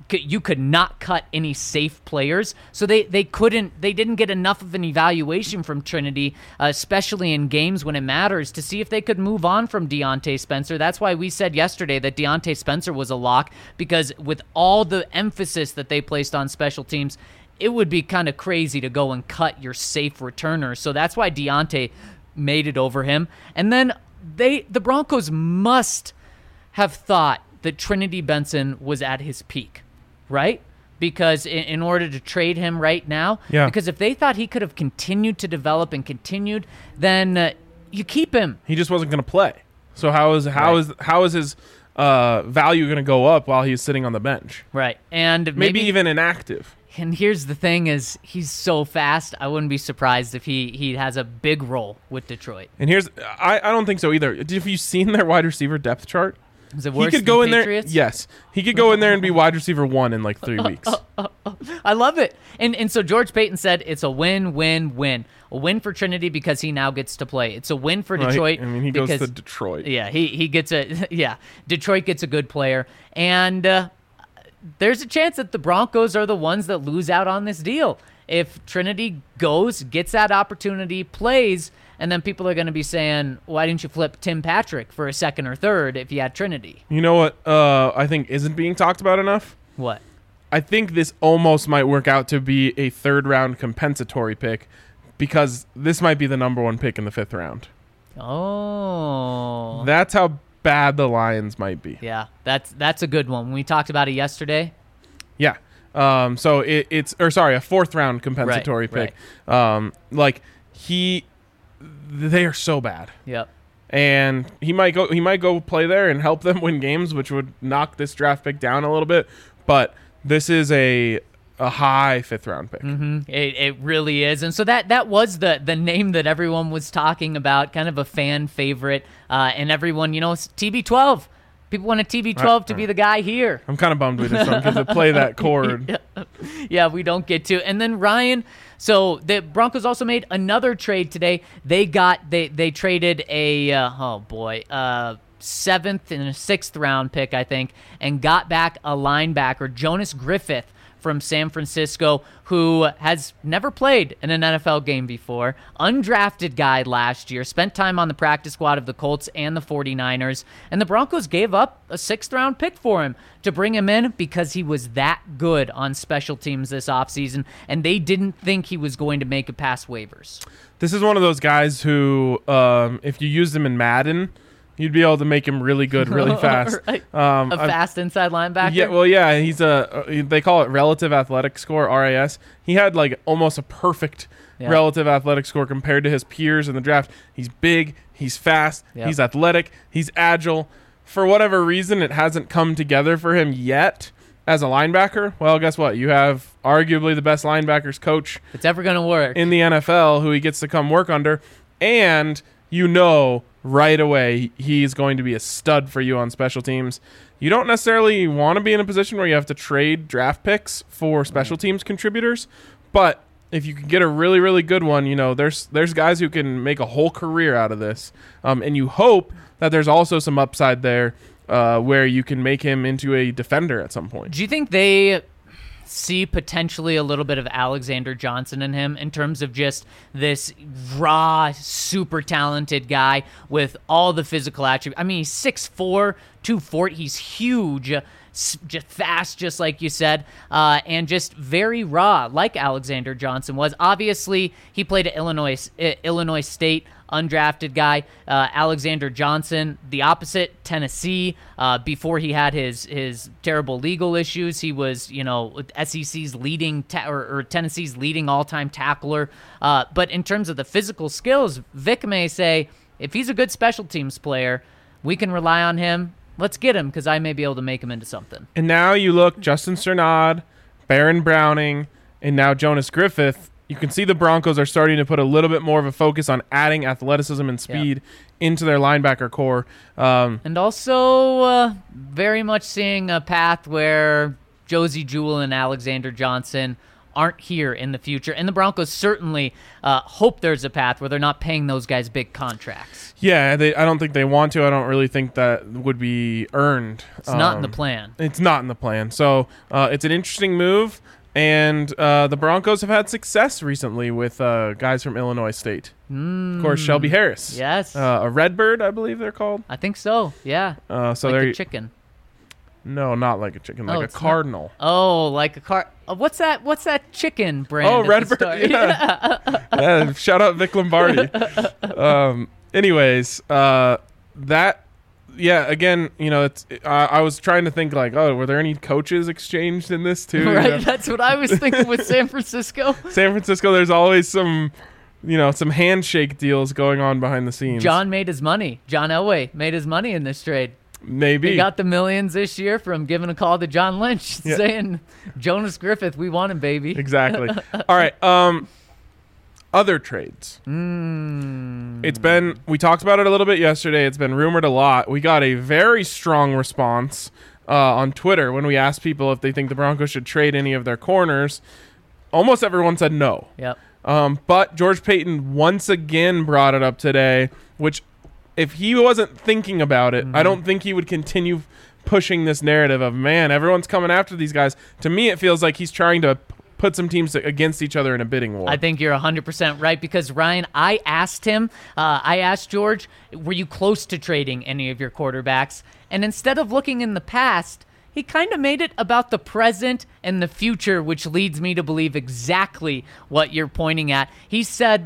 you could not cut any safe players. So they didn't get enough of an evaluation from Trinity, especially in games when it matters, to see if they could move on from Deontay Spencer. That's why we said yesterday that Deontay Spencer was a lock, because with all the emphasis that they placed on special teams, it would be kind of crazy to go and cut your safe returner. So that's why Deontay made it over him. And then the Broncos must have thought that Trinity Benson was at his peak, right? Because in order to trade him right now, because if they thought he could have continued to develop and continued, then you keep him. He just wasn't going to play. So how is his value going to go up while he's sitting on the bench? Right. And maybe even inactive. And here's the thing is he's so fast, I wouldn't be surprised if he has a big role with Detroit. And I don't think so either. Have you seen their wide receiver depth chart? Is it worse than Patriots? Yes. He could go in there and be wide receiver 1 in like 3 weeks. I love it. And so George Payton said it's a win-win-win. A win for Trinity because he now gets to play. It's a win for Detroit. I mean, he goes to Detroit. Yeah, he gets Detroit gets a good player. And there's a chance that the Broncos are the ones that lose out on this deal. If Trinity gets that opportunity, plays, and then people are going to be saying, why didn't you flip Tim Patrick for a second or third if you had Trinity? You know what I think isn't being talked about enough? What? I think this almost might work out to be a third-round compensatory pick, because this might be the number 1 pick in the 5th round. Oh. That's how bad the Lions might be. Yeah, that's a good one. We talked about it yesterday. Yeah. So it's a 4th round compensatory pick. Right. They are so bad. Yep. And he might go play there and help them win games, which would knock this draft pick down a little bit. But this is a high 5th round pick. Mm-hmm. It really is. And so that was the name that everyone was talking about, kind of a fan favorite. And everyone, TB12. People want a TB12 to be the guy here. I'm kind of bummed we just don't get to play that chord. Yeah, we don't get to. And then Ryan, so the Broncos also made another trade today. They traded a 7th and a 6th round pick, I think, and got back a linebacker, Jonas Griffith, from San Francisco, who has never played in an NFL game before. Undrafted guy last year, spent time on the practice squad of the Colts and the 49ers, and the Broncos gave up a 6th round pick for him to bring him in because he was that good on special teams this offseason, and they didn't think he was going to make it past waivers. This is one of those guys who, if you used him in Madden, you'd be able to make him really good, really fast. Right. A fast inside linebacker? Yeah, well, yeah, he's they call it relative athletic score, RAS. He had like almost a perfect relative athletic score compared to his peers in the draft. He's big, he's fast, he's athletic, he's agile. For whatever reason, it hasn't come together for him yet as a linebacker. Well, guess what? You have arguably the best linebackers coach it's ever going to work in the NFL who he gets to come work under, and right away he's going to be a stud for you on special teams. You don't necessarily want to be in a position where you have to trade draft picks for special teams contributors, but if you can get a really, really good one, there's guys who can make a whole career out of this, and you hope that there's also some upside there where you can make him into a defender at some point. Do you think they see potentially a little bit of Alexander Johnson in him in terms of just this raw, super talented guy with all the physical attributes? I mean, he's 6'4", 240. He's huge, just fast, just like you said, and just very raw, like Alexander Johnson was. Obviously, he played at Illinois State, undrafted guy. Alexander Johnson, the opposite, Tennessee. Before he had his terrible legal issues, he was SEC's leading or Tennessee's leading all-time tackler. But in terms of the physical skills, Vic may say if he's a good special teams player, we can rely on him. Let's get him because I may be able to make him into something. And now you look, Justin Strnad, Baron Browning, and now Jonas Griffith. You can see the Broncos are starting to put a little bit more of a focus on adding athleticism and speed into their linebacker core. And also very much seeing a path where Josie Jewell and Alexander Johnson aren't here in the future. And the Broncos certainly hope there's a path where they're not paying those guys big contracts. Yeah, I don't think they want to. I don't really think that would be earned. It's not in the plan. It's not in the plan. So it's an interesting move. And the Broncos have had success recently with guys from Illinois State. Of course, Shelby Harris. Yes. A Redbird, I believe they're called. I think so, yeah. So like they're a chicken. No, not like a chicken, like a it's cardinal. Like a what's that chicken brand? Oh, at the Redbird. start? Yeah. Shout out Vic Lombardi. Anyways, that. Yeah, again, it's. I was trying to think like, were there any coaches exchanged in this too? Right, that's what I was thinking with San Francisco. San Francisco, there's always some handshake deals going on behind the scenes. John made his money. John Elway made his money in this trade. Maybe he got the millions this year from giving a call to John Lynch, saying, "Jonas Griffith, we want him, baby." Exactly. All right. Other trades. We talked about it a little bit yesterday. It's been rumored a lot. We got a very strong response on Twitter when we asked people if they think the Broncos should trade any of their corners. Almost everyone said no. Yep. But George Paton once again brought it up today, which if he wasn't thinking about it, I don't think he would continue pushing this narrative of, man, everyone's coming after these guys. To me, it feels like he's trying to put some teams against each other in a bidding war. I think you're 100% right because, Ryan, I asked George, were you close to trading any of your quarterbacks? And instead of looking in the past, he kind of made it about the present and the future, which leads me to believe exactly what you're pointing at. He said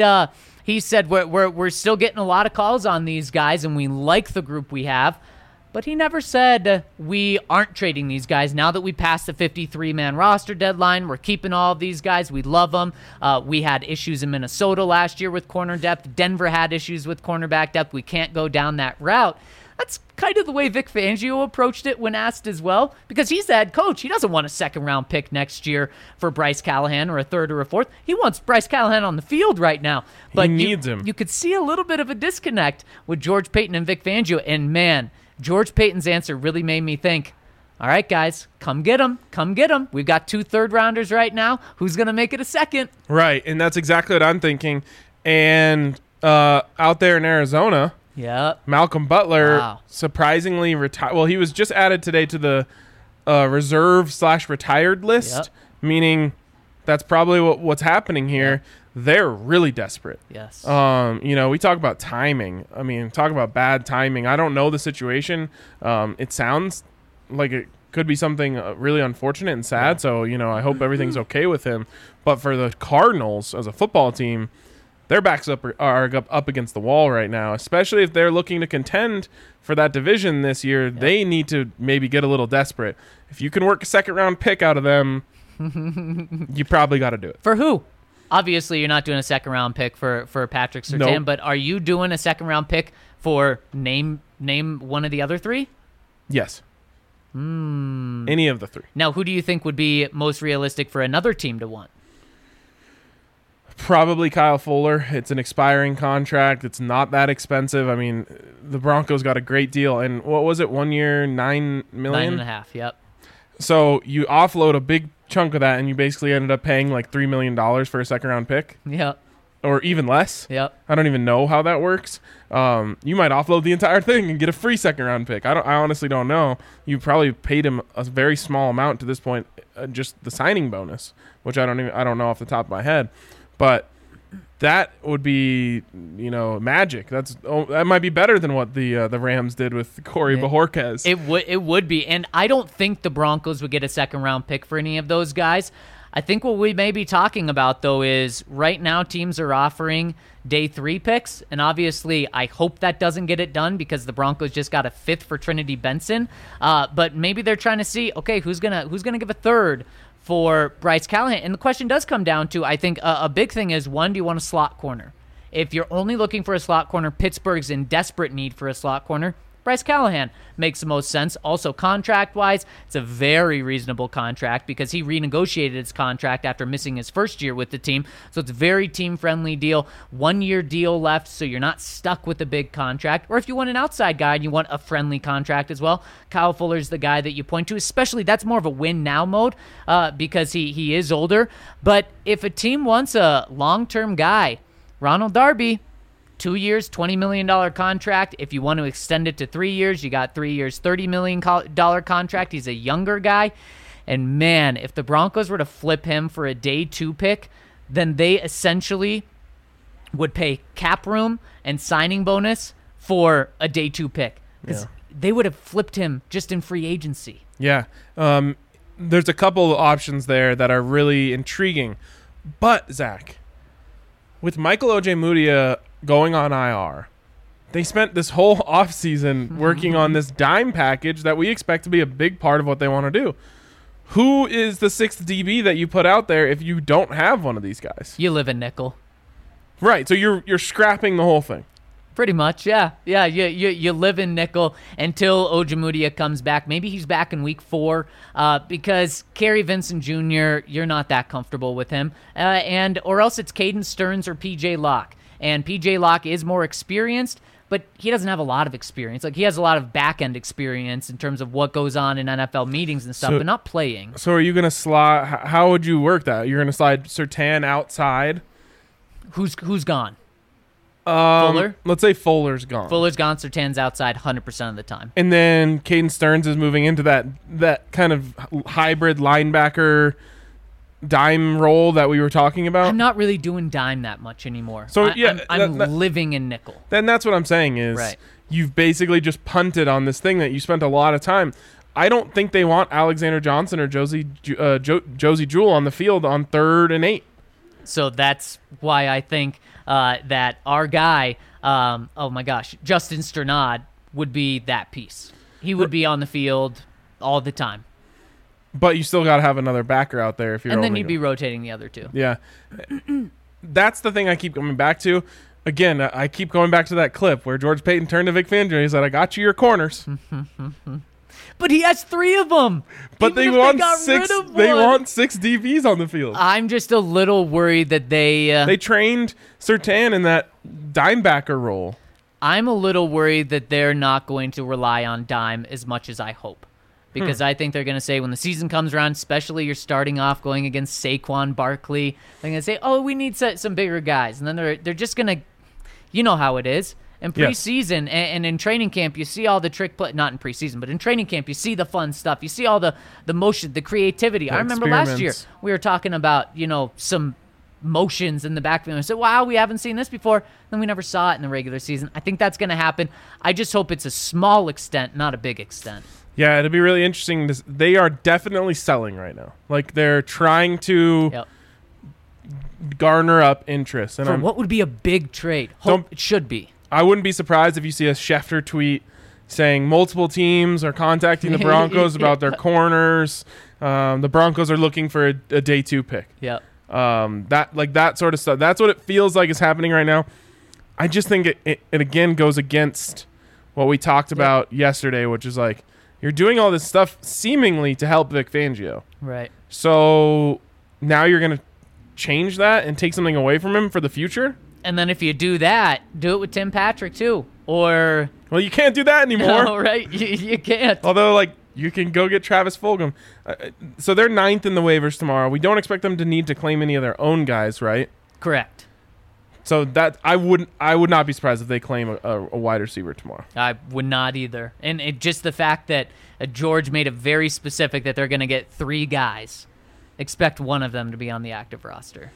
we're still getting a lot of calls on these guys, and we like the group we have. But he never said we aren't trading these guys. Now that we passed the 53-man roster deadline, we're keeping all of these guys. We love them. We had issues in Minnesota last year with corner depth. Denver had issues with cornerback depth. We can't go down that route. That's kind of the way Vic Fangio approached it when asked as well, because he's the head coach. He doesn't want a second-round pick next year for Bryce Callahan or a third or a fourth. He wants Bryce Callahan on the field right now. But he needs him. You could see a little bit of a disconnect with George Paton and Vic Fangio, and man, George Paton's answer really made me think, all right, guys, come get him. Come get him. We've got 2 third-rounders right now. Who's going to make it a second? Right, and that's exactly what I'm thinking. And out there in Arizona, Malcolm Butler surprisingly retired. Well, he was just added today to the reserve/retired list, meaning that's probably what's happening here. They're really desperate. Yes. We talk about timing. I mean, talk about bad timing. I don't know the situation. It sounds like it could be something really unfortunate and sad. So, I hope everything's okay with him. But for the Cardinals as a football team, their backs are up against the wall right now, especially if they're looking to contend for that division this year. They need to maybe get a little desperate. If you can work a second-round pick out of them, you probably got to do it. For who? Obviously, you're not doing a second-round pick for Patrick Surtain, Nope. But are you doing a second-round pick for name one of the other 3? Yes. Any of the 3. Now, who do you think would be most realistic for another team to want? Probably Kyle Fuller. It's an expiring contract. It's not that expensive. I mean, the Broncos got a great deal. And what was it, 1 year, $9 million? $9.5 million, yep. So you offload a big chunk of that, and you basically ended up paying like $3 million for a second-round pick. Yep. Or even less. Yep. I don't even know how that works. You might offload the entire thing and get a free second-round pick. I honestly don't know. You probably paid him a very small amount to this point, just the signing bonus, which I don't know off the top of my head. But that would be, magic. That might be better than what the Rams did with Corey Bojorquez. It would be, and I don't think the Broncos would get a second-round pick for any of those guys. I think what we may be talking about, though, is right now teams are offering day 3 picks, and obviously I hope that doesn't get it done because the Broncos just got a 5th for Trinity Benson. But maybe they're trying to see, okay, who's gonna give a 3rd for Bryce Callahan? And the question does come down to, I think, a big thing is, one, do you want a slot corner? If you're only looking for a slot corner, Pittsburgh's in desperate need for a slot corner. Bryce Callahan makes the most sense. Also, contract-wise, it's a very reasonable contract because he renegotiated his contract after missing his first year with the team. So it's a very team-friendly deal. 1-year deal left, so you're not stuck with a big contract. Or if you want an outside guy and you want a friendly contract as well, Kyle Fuller's the guy that you point to. Especially, that's more of a win-now mode because he is older. But if a team wants a long-term guy, Ronald Darby, 2 years, $20 million contract. If you want to extend it to 3 years, you got 3 years, $30 million contract. He's a younger guy. And man, if the Broncos were to flip him for a day 2 pick, then they essentially would pay cap room and signing bonus for a day 2 pick. Because they would have flipped him just in free agency. Yeah. There's a couple of options there that are really intriguing. But, Zach, with Michael Ojemudia going on IR, they spent this whole offseason working on this dime package that we expect to be a big part of what they want to do. Who is the 6th DB that you put out there if you don't have one of these guys? You live in nickel. Right, so you're scrapping the whole thing. Pretty much, yeah. Yeah, you live in nickel until Ojemudia comes back. Maybe he's back in week 4 because Kerry Vincent Jr., you're not that comfortable with him. Or else it's Caden Stearns or P.J. Locke. And P.J. Locke is more experienced, but he doesn't have a lot of experience. Like, he has a lot of back-end experience in terms of what goes on in NFL meetings and stuff, but not playing. So are you going to slide – how would you work that? You're going to slide Surtain outside? Who's gone? Fuller? Let's say Fuller's gone. Fuller's gone. Surtain's outside 100% of the time. And then Caden Stearns is moving into that kind of hybrid linebacker dime role that we were talking about. I'm not really doing dime that much anymore. So I'm living in nickel. Then that's what I'm saying is You've basically just punted on this thing that you spent a lot of time. I don't think they want Alexander Johnson or Josie Jewell on the field on 3rd and 8. So that's why I think that our guy, Justin Strnad would be that piece. He would be on the field all the time. But you still got to have another backer out there if you're. And then you'd be rotating the other two. Yeah, that's the thing I keep coming back to. Again, I keep going back to that clip where George Paton turned to Vic Fangio. He said, "I got you your corners." But he has 3 of them. But they want 6. They want 6 DBs on the field. I'm just a little worried that they trained Surtain in that dime backer role. I'm a little worried that they're not going to rely on dime as much as I hope. Because I think they're going to say when the season comes around, especially you're starting off going against Saquon Barkley, they're going to say, "Oh, we need some bigger guys," and then they're just going to, you know how it is. In preseason and in training camp, you see all the trick play. Not in preseason, but in training camp, you see the fun stuff. You see all the motion, the creativity. I remember last year we were talking about some motions in the backfield. I said, "Wow, we haven't seen this before." Then we never saw it in the regular season. I think that's going to happen. I just hope it's a small extent, not a big extent. Yeah, it'll be really interesting. They are definitely selling right now. Like, they're trying to garner up interest. And what would be a big trade? It should be. I wouldn't be surprised if you see a Schefter tweet saying multiple teams are contacting the Broncos about their corners. The Broncos are looking for a day 2 pick. Yeah. That sort of stuff. That's what it feels like is happening right now. I just think it again goes against what we talked about yesterday, which is like, you're doing all this stuff seemingly to help Vic Fangio. Right. So now you're going to change that and take something away from him for the future? And then if you do that, do it with Tim Patrick too. Or... Well, you can't do that anymore. No, right? You can't. Although, you can go get Travis Fulgham. So they're 9th in the waivers tomorrow. We don't expect them to need to claim any of their own guys, right? Correct. So that I would not be surprised if they claim a wide receiver tomorrow. I would not either. And just the fact that George made it very specific that they're going to get 3 guys. Expect one of them to be on the active roster.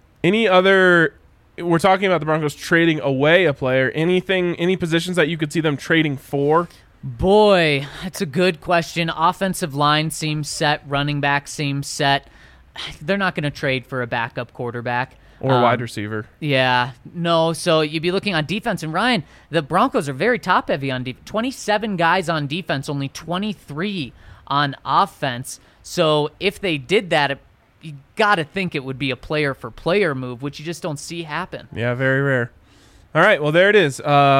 We're talking about the Broncos trading away a player. Any positions that you could see them trading for? Boy, that's a good question. Offensive line seems set. Running back seems set. They're not going to trade for a backup quarterback. Or wide receiver. Yeah. No, so you'd be looking on defense. And Ryan, the Broncos are very top-heavy on defense. 27 guys on defense, only 23 on offense. So if they did that, you got to think it would be a player-for-player move, which you just don't see happen. Yeah, very rare. All right, well, there it is.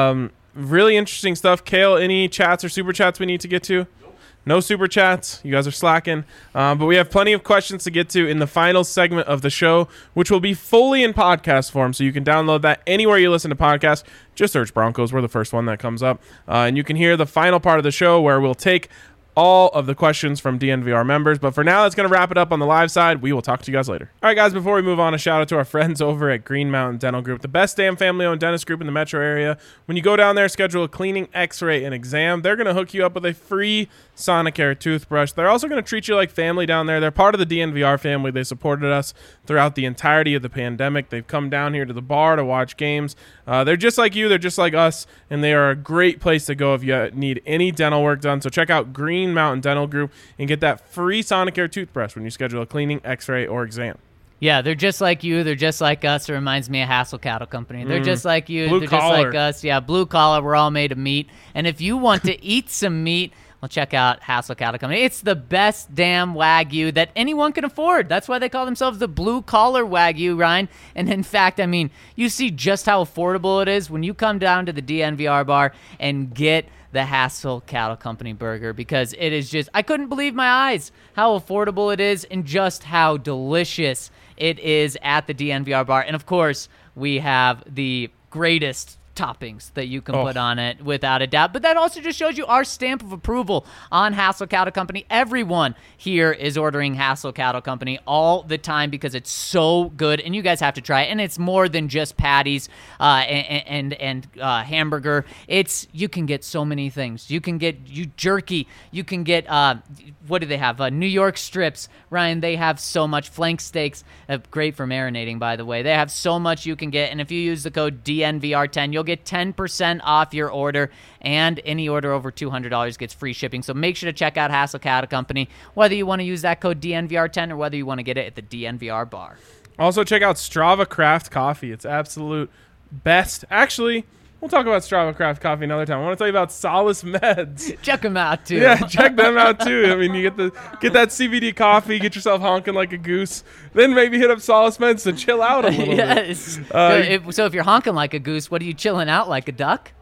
really interesting stuff. Kale, any chats or super chats we need to get to? No super chats. You guys are slacking. But we have plenty of questions to get to in the final segment of the show, which will be fully in podcast form. So you can download that anywhere you listen to podcasts. Just search Broncos. We're the first one that comes up. And you can hear the final part of the show where we'll take all of the questions from DNVR members. But for now, that's going to wrap it up on the live side. We will talk to you guys later. All right, guys, before we move on, a shout out to our friends over at Green Mountain Dental Group, the best damn family-owned dentist group in the metro area. When you go down there, schedule a cleaning, x-ray, and exam, they're going to hook you up with a free Sonicare toothbrush. They're also going to treat you like family down there. They're part of the DNVR family. They supported us throughout the entirety of the pandemic. They've come down here to the bar to watch games. They're just like you. They're just like us, and they are a great place to go if you need any dental work done. So check out Green Mountain Dental Group and get that free Sonicare toothbrush when you schedule a cleaning, x-ray, or exam. Yeah, they're just like you. They're just like us. It reminds me of Hassel Cattle Company. They're just like you. Blue they're collar. just like us. Yeah, blue collar. We're all made of meat. And if you want to eat some meat, well, check out Hassel Cattle Company. It's the best damn Wagyu that anyone can afford. That's why they call themselves the blue collar Wagyu, Ryan. And in fact, I mean, you see just how affordable it is when you come down to the DNVR bar and get the Hassel Cattle Company burger, because it is just, I couldn't believe my eyes how affordable it is and just how delicious it is at the DNVR bar. And of course, we have the greatest toppings that you can put on it without a doubt. But that also just shows you our stamp of approval on Hassel Cattle Company. Everyone here is ordering Hassel Cattle Company all the time because it's so good, and you guys have to try it. And it's more than just patties and hamburger. You can get so many things. You can get jerky. You can get what do they have? New York strips. Ryan, they have so much. Flank steaks, great for marinating, by the way. They have so much you can get, and if you use the code DNVR10, you'll get 10% off your order, and any order over $200 gets free shipping. So make sure to check out Hassel Cattle Company, whether you want to use that code DNVR10 or whether you want to get it at the DNVR bar. Also, check out Strava Craft Coffee. It's absolute best. Actually, we'll talk about Strava Craft Coffee another time. I want to tell you about Solace Meds. Check them out, too. Yeah, check them out, too. I mean, you get that CBD coffee, get yourself honking like a goose, then maybe hit up Solace Meds to chill out a little bit. So if you're honking like a goose, what are you chilling out, like a duck?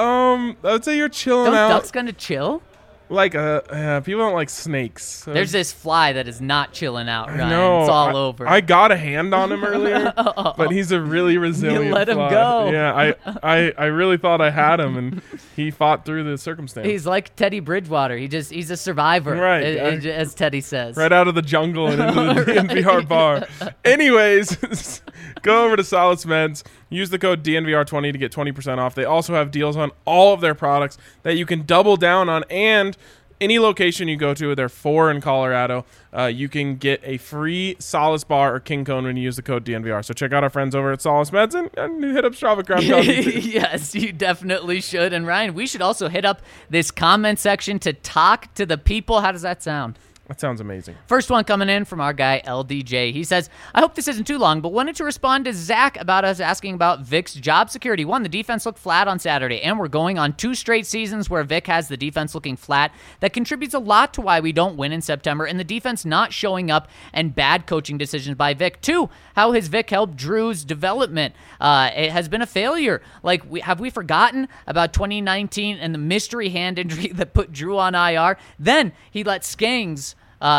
I would say you're chilling Don't out. ducks gonna chill? Like people don't like snakes. So. There's this fly that is not chilling out, Ryan. No, it's all over. I got a hand on him earlier, but he's a really resilient You let him fly. go. Yeah, I really thought I had him, and he fought through the circumstance. He's like Teddy Bridgewater. He's a survivor, Right. as Teddy says. Right out of the jungle and into the DNVR bar. Anyways, go over to Solace Meds. Use the code DNVR20 to get 20% off. They also have deals on all of their products that you can double down on, and any location you go to, they're 4 in Colorado, you can get a free Solace bar or King Cone when you use the code DNVR. So check out our friends over at Solace Meds and hit up Strava Craft Coffee. Yes, you definitely should. And Ryan, we should also hit up this comment section to talk to the people. How does that sound? That sounds amazing. First one coming in from our guy, LDJ. He says, I hope this isn't too long, but wanted to respond to Zach about us asking about Vic's job security. One, the defense looked flat on Saturday, and we're going on 2 straight seasons where Vic has the defense looking flat. That contributes a lot to why we don't win in September, and the defense not showing up and bad coaching decisions by Vic. 2, how has Vic helped Drew's development? It has been a failure. Like, have we forgotten about 2019 and the mystery hand injury that put Drew on IR? Then he let Skangs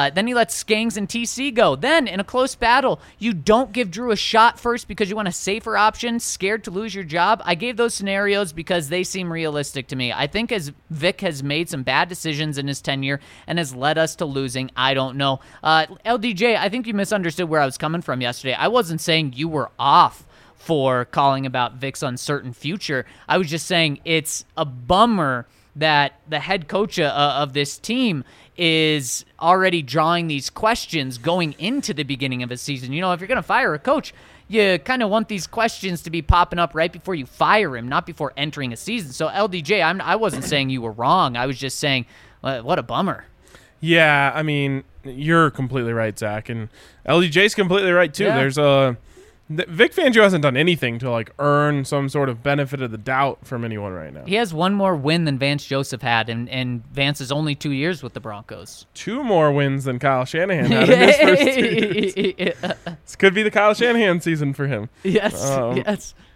and TC go. Then, in a close battle, you don't give Drew a shot first because you want a safer option, scared to lose your job. I gave those scenarios because they seem realistic to me. I think as Vic has made some bad decisions in his tenure and has led us to losing, I don't know. LDJ, I think you misunderstood where I was coming from yesterday. I wasn't saying you were off for calling about Vic's uncertain future. I was just saying it's a bummer that the head coach of this team is already drawing these questions going into the beginning of a season. You know, if you're going to fire a coach, you kind of want these questions to be popping up right before you fire him, not before entering a season. So, LDJ, I wasn't saying you were wrong. I was just saying, what a bummer. Yeah, I mean, you're completely right, Zach. And LDJ's completely right, too. Yeah. Vic Fangio hasn't done anything to like earn some sort of benefit of the doubt from anyone right now. He has one more win than Vance Joseph had, and Vance is only 2 years with the Broncos. 2 more wins than Kyle Shanahan had in his first 2 years. This could be the Kyle Shanahan season for him. Yes.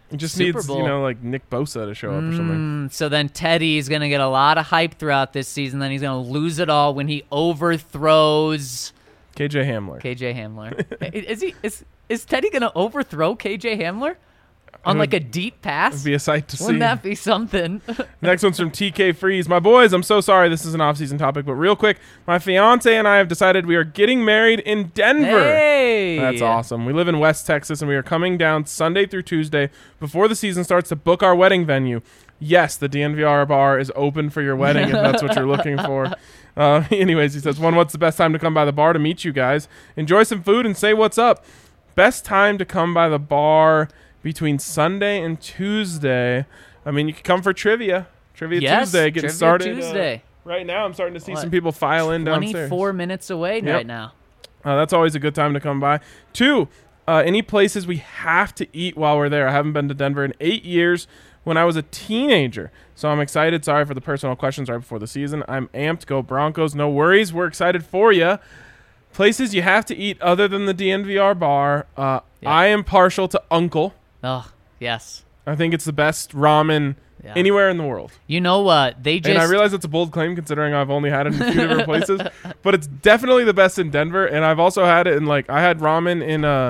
It just Super needs, Bowl. like Nick Bosa to show up or something. So then Teddy's going to get a lot of hype throughout this season. Then he's going to lose it all when he overthrows KJ Hamler. KJ Hamler. Is Teddy going to overthrow KJ Hamler on like a deep pass? It'd be a sight to see. Wouldn't that be something? Next one's from TK Freeze. My boys, I'm so sorry this is an off-season topic, but real quick, my fiance and I have decided we are getting married in Denver. Hey! That's awesome. We live in West Texas, and we are coming down Sunday through Tuesday before the season starts to book our wedding venue. Yes, the DNVR bar is open for your wedding if that's what you're looking for. Anyways, he says, what's the best time to come by the bar to meet you guys? Enjoy some food and say what's up. Best time to come by the bar between Sunday and Tuesday. I mean, you can come for trivia. Tuesday, getting Trivia started. Tuesday. Right now, I'm starting to see some people file in downstairs. 24 minutes away right now. That's always a good time to come by. 2, any places we have to eat while we're there. I haven't been to Denver in 8 years when I was a teenager, so I'm excited. Sorry for the personal questions right before the season. I'm amped. Go Broncos. No worries. We're excited for you. Places you have to eat other than the DNVR bar. I am partial to Uncle. Oh, yes. I think it's the best ramen anywhere in the world. You know what? And I realize it's a bold claim considering I've only had it in a few different places, but it's definitely the best in Denver. And I've also had it in I had ramen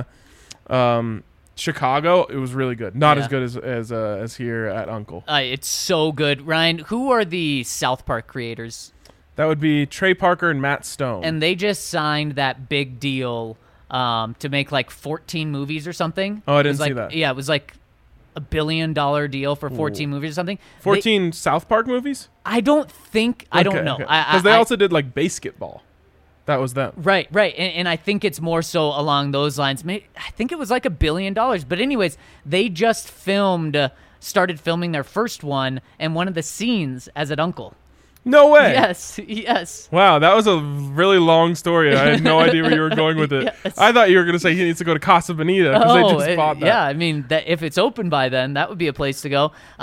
in Chicago. It was really good. Not as good as here at Uncle. It's so good. Ryan, who are the South Park creators? That would be Trey Parker and Matt Stone. And they just signed that big deal to make 14 movies or something. Oh, I didn't see that. Yeah, it was $1 billion deal for 14 movies or something. 14 South Park movies? I don't think. I don't know. Because they also did BASEketball. That was them. Right. And I think it's more so along those lines. I think it was $1 billion. But anyways, they just started filming their first one and one of the scenes as an uncle. No way. Yes. Wow, that was a really long story. I had no idea where you were going with it. Yes. I thought you were going to say he needs to go to Casa Bonita because they just bought that. Yeah, I mean, if it's open by then, that would be a place to go. You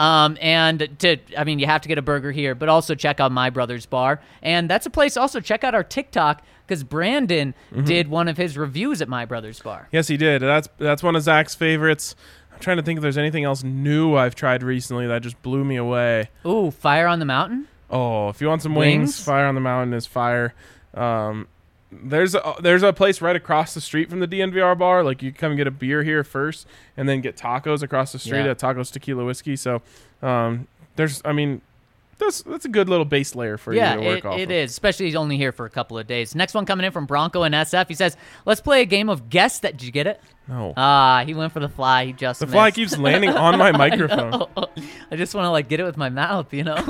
have to get a burger here, but also check out My Brother's Bar. And that's a place also, check out our TikTok because Brandon did one of his reviews at My Brother's Bar. Yes, he did. That's one of Zach's favorites. I'm trying to think if there's anything else new I've tried recently that just blew me away. Ooh, Fire on the Mountain? Oh, if you want some wings, Fire on the Mountain is fire. There's a place right across the street from the DNVR bar. You come and get a beer here first, and then get tacos across the street at Tacos Tequila Whiskey. So, that's a good little base layer for you to work off. It is, especially he's only here for a couple of days. Next one coming in from Bronco and SF. He says, "Let's play a game of guess that." Did you get it? No. He went for the fly. He just the missed. fly keeps landing on my microphone. I just want to get it with my mouth,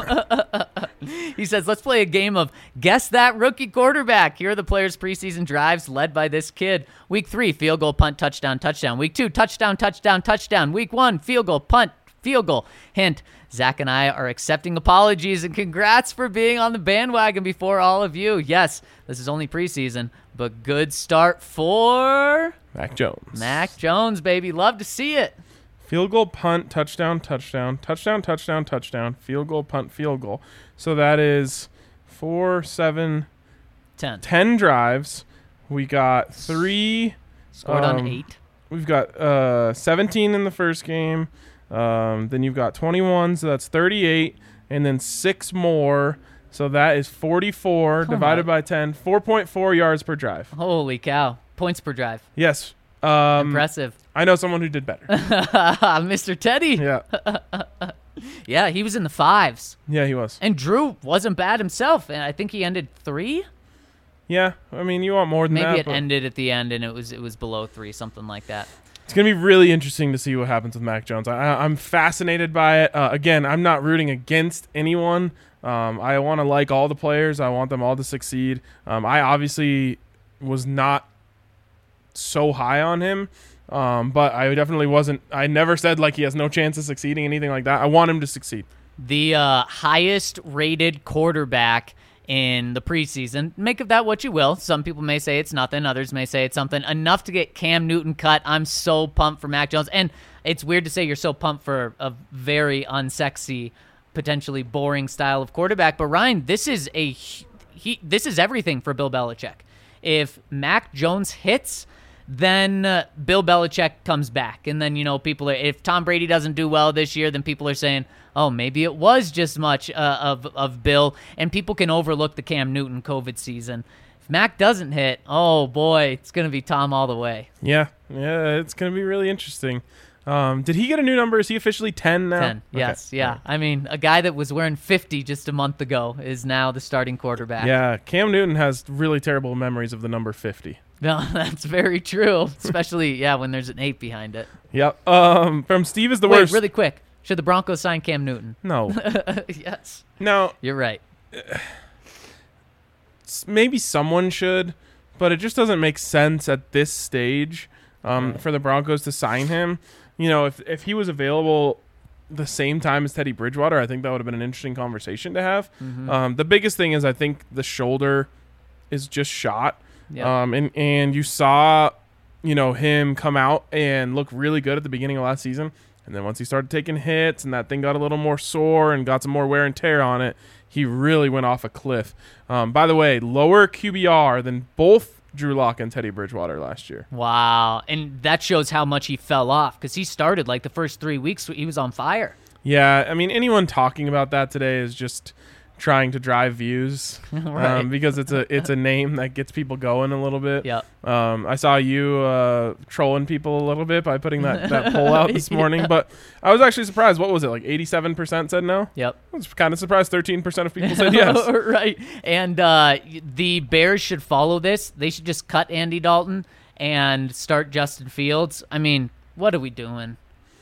He says, let's play a game of Guess That Rookie Quarterback. Here are the players' preseason drives led by this kid. Week 3, field goal, punt, touchdown, touchdown. Week 2, touchdown, touchdown, touchdown. Week 1, field goal, punt, field goal. Hint, Zach and I are accepting apologies and congrats for being on the bandwagon before all of you. Yes, this is only preseason, but good start for Mac Jones. Mac Jones, baby. Love to see it. Field goal, punt, touchdown, touchdown, touchdown, touchdown, touchdown, field goal, punt, field goal. So that is 4, 7, 10 drives. We got 3. Scored on 8. We've got 17 in the first game. Then you've got 21, so that's 38. And then 6 more. So that is 44 divided by 10. 4.4 yards per drive. Holy cow. Points per drive. Yes. Impressive. I know someone who did better. Mr. Teddy. Yeah. Yeah, he was in the 5s. Yeah, he was. And Drew wasn't bad himself, and I think he ended 3. Yeah, I mean, you want more than that. Maybe it ended at the end, and it was below 3, something like that. It's going to be really interesting to see what happens with Mac Jones. I'm fascinated by it. Again, I'm not rooting against anyone. I want to like all the players. I want them all to succeed. I obviously was not so high on him, but I definitely wasn't. I never said he has no chance of succeeding, anything like that. I want him to succeed. The highest rated quarterback in the preseason. Make of that what you will. Some people may say it's nothing. Others may say it's something. Enough to get Cam Newton cut. I'm so pumped for Mac Jones. And it's weird to say you're so pumped for a very unsexy, potentially boring style of quarterback. But Ryan, this is this is everything for Bill Belichick. If Mac Jones hits, then Bill Belichick comes back. And then, people are, if Tom Brady doesn't do well this year, then people are saying, oh, maybe it was just much of Bill. And people can overlook the Cam Newton COVID season. If Mac doesn't hit, oh, boy, it's going to be Tom all the way. Yeah, it's going to be really interesting. Did he get a new number? Is he officially 10 now? 10, yes, okay. Yeah. Right. I mean, a guy that was wearing 50 just a month ago is now the starting quarterback. Yeah, Cam Newton has really terrible memories of the number 50. No, that's very true, especially, when there's an 8 behind it. Yep. From Steve is the worst. Wait, really quick. Should the Broncos sign Cam Newton? No. Yes. No. You're right. Maybe someone should, but it just doesn't make sense at this stage for the Broncos to sign him. If he was available the same time as Teddy Bridgewater, I think that would have been an interesting conversation to have. Mm-hmm. The biggest thing is I think the shoulder is just shot. Yep. And you saw, him come out and look really good at the beginning of last season. And then once he started taking hits and that thing got a little more sore and got some more wear and tear on it, he really went off a cliff. By the way, lower QBR than both Drew Lock and Teddy Bridgewater last year. Wow. And that shows how much he fell off because he started like the first 3 weeks, he was on fire. Yeah. I mean, anyone talking about that today is just trying to drive views right. Because it's a name that gets people going a little bit. Yep. I saw you trolling people a little bit by putting that poll out this morning, but I was actually surprised. What was it, like 87% said no? Yep. I was kind of surprised 13% of people said yes. Right. And the Bears should follow this. They should just cut Andy Dalton and start Justin Fields. I mean, what are we doing?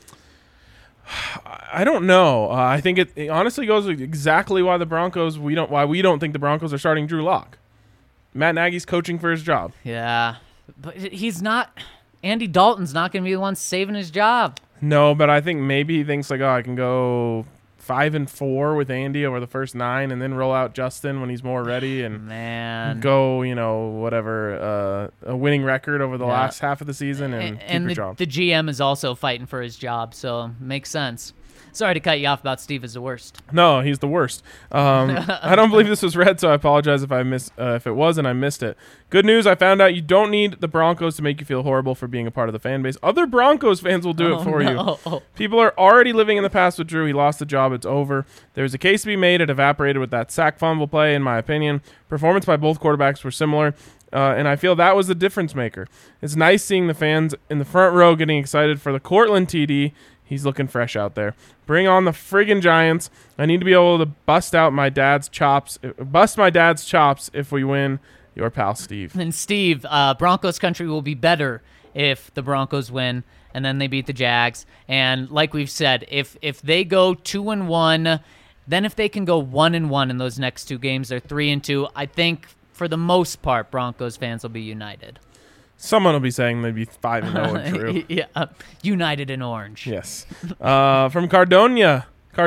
I don't know. I think it honestly goes with exactly why we don't think the Broncos are starting Drew Lock. Matt Nagy's coaching for his job. Yeah, but he's not. Andy Dalton's not going to be the one saving his job. No, but I think maybe he thinks like, I can go 5-4 with Andy over the first 9, and then roll out Justin when he's more ready, and go whatever a winning record over the last half of the season and keep your job. The GM is also fighting for his job, so makes sense. Sorry to cut you off about Steve is the worst. No, he's the worst. I don't believe this was read, so I apologize if if it was and I missed it. Good news, I found out you don't need the Broncos to make you feel horrible for being a part of the fan base. Other Broncos fans will do it for you. People are already living in the past with Drew. He lost the job. It's over. There's a case to be made. It evaporated with that sack fumble play, in my opinion. Performance by both quarterbacks were similar. And I feel that was the difference maker. It's nice seeing the fans in the front row getting excited for the Cortland TD. He's looking fresh out there. Bring on the friggin' Giants. I need to be able to bust my dad's chops if we win. Your pal, Steve. And Steve, Broncos country will be better if the Broncos win, and then they beat the Jags. And like we've said, if they go 2-1, then if they can go 1-1 in those next 2 games, they're 3-2. I think for the most part, Broncos fans will be united. Someone will be saying they'd be 5-0 and true. Yeah, united in orange. Yes. From Cardona,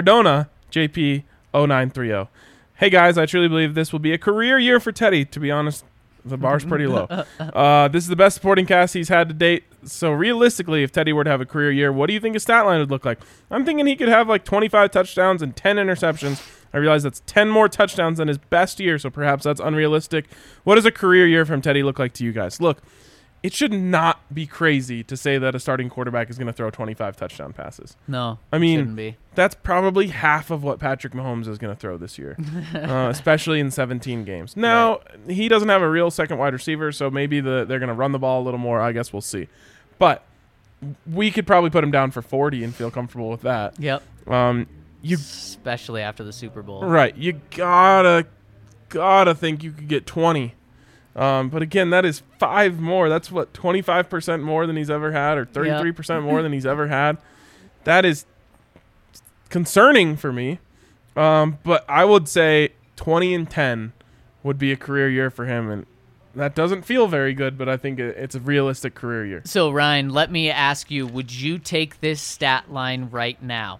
JP 0930. Hey guys, I truly believe this will be a career year for Teddy. To be honest, the bar's pretty low. This is the best supporting cast he's had to date. So realistically, if Teddy were to have a career year, what do you think his stat line would look like? I'm thinking he could have like 25 touchdowns and 10 interceptions. I realize that's 10 more touchdowns than his best year, so perhaps that's unrealistic. What does a career year from Teddy look like to you guys? Look, it should not be crazy to say that a starting quarterback is going to throw 25 touchdown passes. No, I mean, shouldn't be. That's probably half of what Patrick Mahomes is going to throw this year, especially in 17 games. Now, he doesn't have a real second wide receiver, so maybe they're going to run the ball a little more. I guess we'll see. But we could probably put him down for 40 and feel comfortable with that. Yep. Especially after the Super Bowl. Right. You gotta think you could get 20. But again, that is 5 more. That's what, 25% more than he's ever had, or 33% more than he's ever had. That is concerning for me. But I would say 20-10 would be a career year for him, and that doesn't feel very good, but I think it's a realistic career year. So, Ryan, let me ask you, would you take this stat line right now?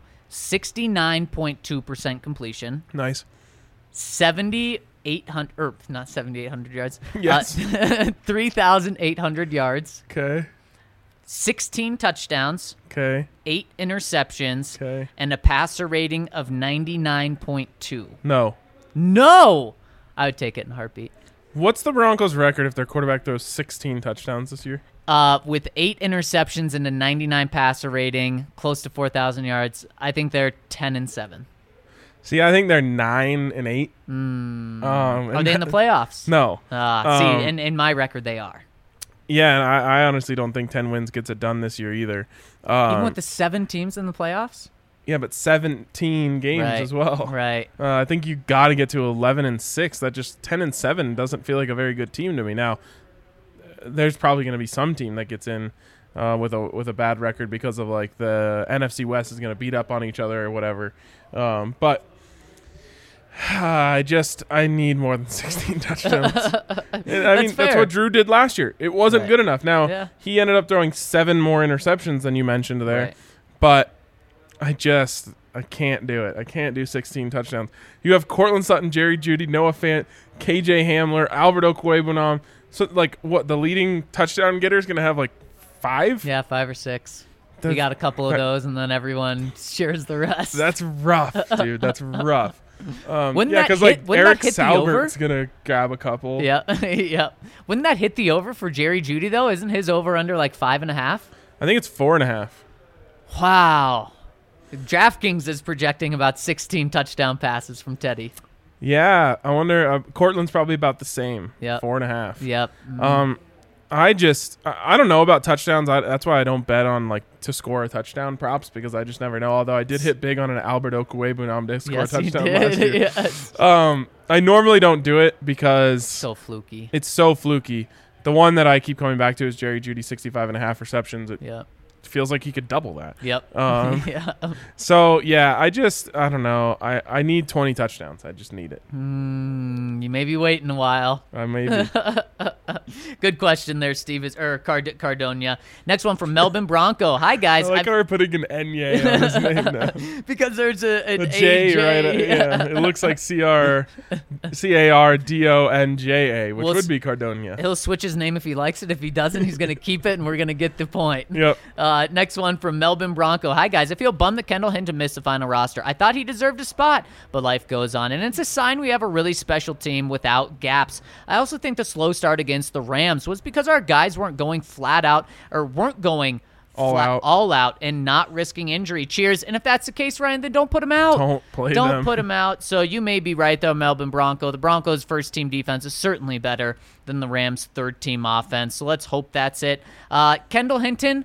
69.2% completion. Nice. 7,800, or not 7,800 yards. Yes. 3,800 yards. Okay. 16 touchdowns. Okay. 8 interceptions. Okay. And a passer rating of 99.2. No. No! I would take it in a heartbeat. What's the Broncos' record if their quarterback throws 16 touchdowns this year? With 8 interceptions and a 99 passer rating, close to 4,000 yards, I think they're 10-7. See, I think they're 9-8. Are they in the playoffs? No. See, in my record, they are. Yeah, and I honestly don't think 10 wins gets it done this year either. Even with the 7 teams in the playoffs? Yeah, but 17 games as well. Right. I think you got to get to 11-6. That just 10-7 doesn't feel like a very good team to me. Now, there's probably going to be some team that gets in with a bad record because of like the NFC West is going to beat up on each other or whatever. But I need more than 16 touchdowns. That's what Drew did last year. It wasn't good enough. Now, he ended up throwing 7 more interceptions than you mentioned there. But I can't do it. I can't do 16 touchdowns. You have Cortland Sutton, Jerry Jeudy, Noah Fant, KJ Hamler, Albert Okwuegbunam. So, like, what, the leading touchdown getter is going to have, like, 5? Yeah, 5 or 6. We got a couple of those, and then everyone shares the rest. That's rough, dude. That's rough. Wouldn't because, like, Eric Salbert's going to grab a couple. Yeah, yeah. Wouldn't that hit the over for Jerry Jeudy, though? Isn't his over-under, like, 5.5? I think it's 4.5. Wow. DraftKings is projecting about 16 touchdown passes from Teddy. Yeah, I wonder. Cortland's probably about the same. Yeah, 4.5. Yep. I don't know about touchdowns. That's why I don't bet on like to score a touchdown props because I just never know. Although I did hit big on an Albert Okwuegbunam to score a touchdown last year. Yes. I normally don't do it because so fluky. It's so fluky. The one that I keep coming back to is Jerry Jeudy, 65.5 receptions. It feels like he could double that. Yep. Yeah. So, yeah, I don't know. I need 20 touchdowns. I just need it. You may be waiting a while. I may be. Good question there, Steve. Cardonia. Next one from Melbourne Bronco. Hi, guys. I like how we're putting an N-Y on his name now. Because there's an J, AJ. Right? Yeah. It looks like Cardonja, which would be Cardonia. He'll switch his name if he likes it. If he doesn't, he's going to keep it, and we're going to get the point. Yep. Next one from Melbourne Bronco. Hi, guys. I feel bummed that Kendall Hinton missed the final roster. I thought he deserved a spot, but life goes on, and it's a sign we have a really special team without gaps. I also think the slow start against the Rams was because our guys weren't going flat out or weren't going all out and not risking injury. Cheers. And if that's the case, Ryan, then don't put him out. Don't put him out. So you may be right, though, Melbourne Bronco. The Broncos' first-team defense is certainly better than the Rams' third-team offense. So let's hope that's it. Kendall Hinton,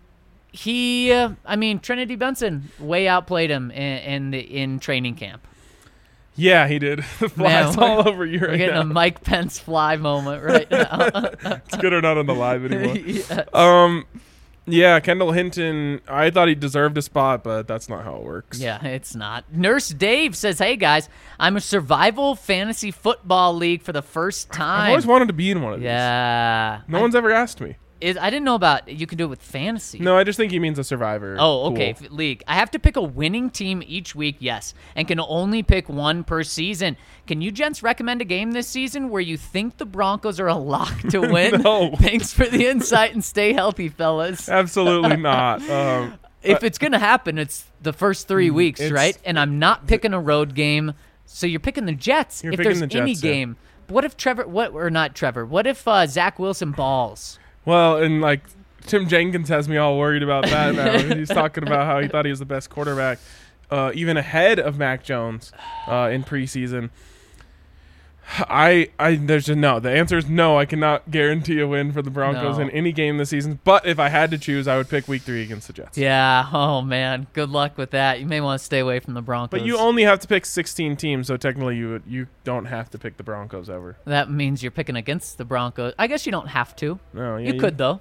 Trinity Benson way outplayed him in training camp. Yeah, he did. The fly's all over you right now. We're getting a Mike Pence fly moment right now. It's good or not on the live anymore. Yes. Yeah, Kendall Hinton, I thought he deserved a spot, but that's not how it works. Yeah, it's not. Nurse Dave says, hey, guys, I'm a survival fantasy football league for the first time. I've always wanted to be in one of these. Yeah. No one's ever asked me. I didn't know about you can do it with fantasy. No, I just think he means a survivor. Oh, okay. League. I have to pick a winning team each week, yes, and can only pick one per season. Can you gents recommend a game this season where you think the Broncos are a lock to win? No. Thanks for the insight and stay healthy, fellas. Absolutely not. If it's going to happen, it's the first 3 weeks, right? And I'm not picking a road game, so you're picking the Jets. If there's any game. What if What if Zach Wilson balls? Well, and like Tim Jenkins has me all worried about that now. He's talking about how he thought he was the best quarterback, even ahead of Mac Jones in preseason. There's a no. The answer is no. I cannot guarantee a win for the Broncos in any game this season. But if I had to choose, I would pick Week 3 against the Jets. Yeah. Oh man. Good luck with that. You may want to stay away from the Broncos. But you only have to pick 16 teams, so technically you don't have to pick the Broncos ever. That means you're picking against the Broncos. I guess you don't have to. No. Yeah, you could though.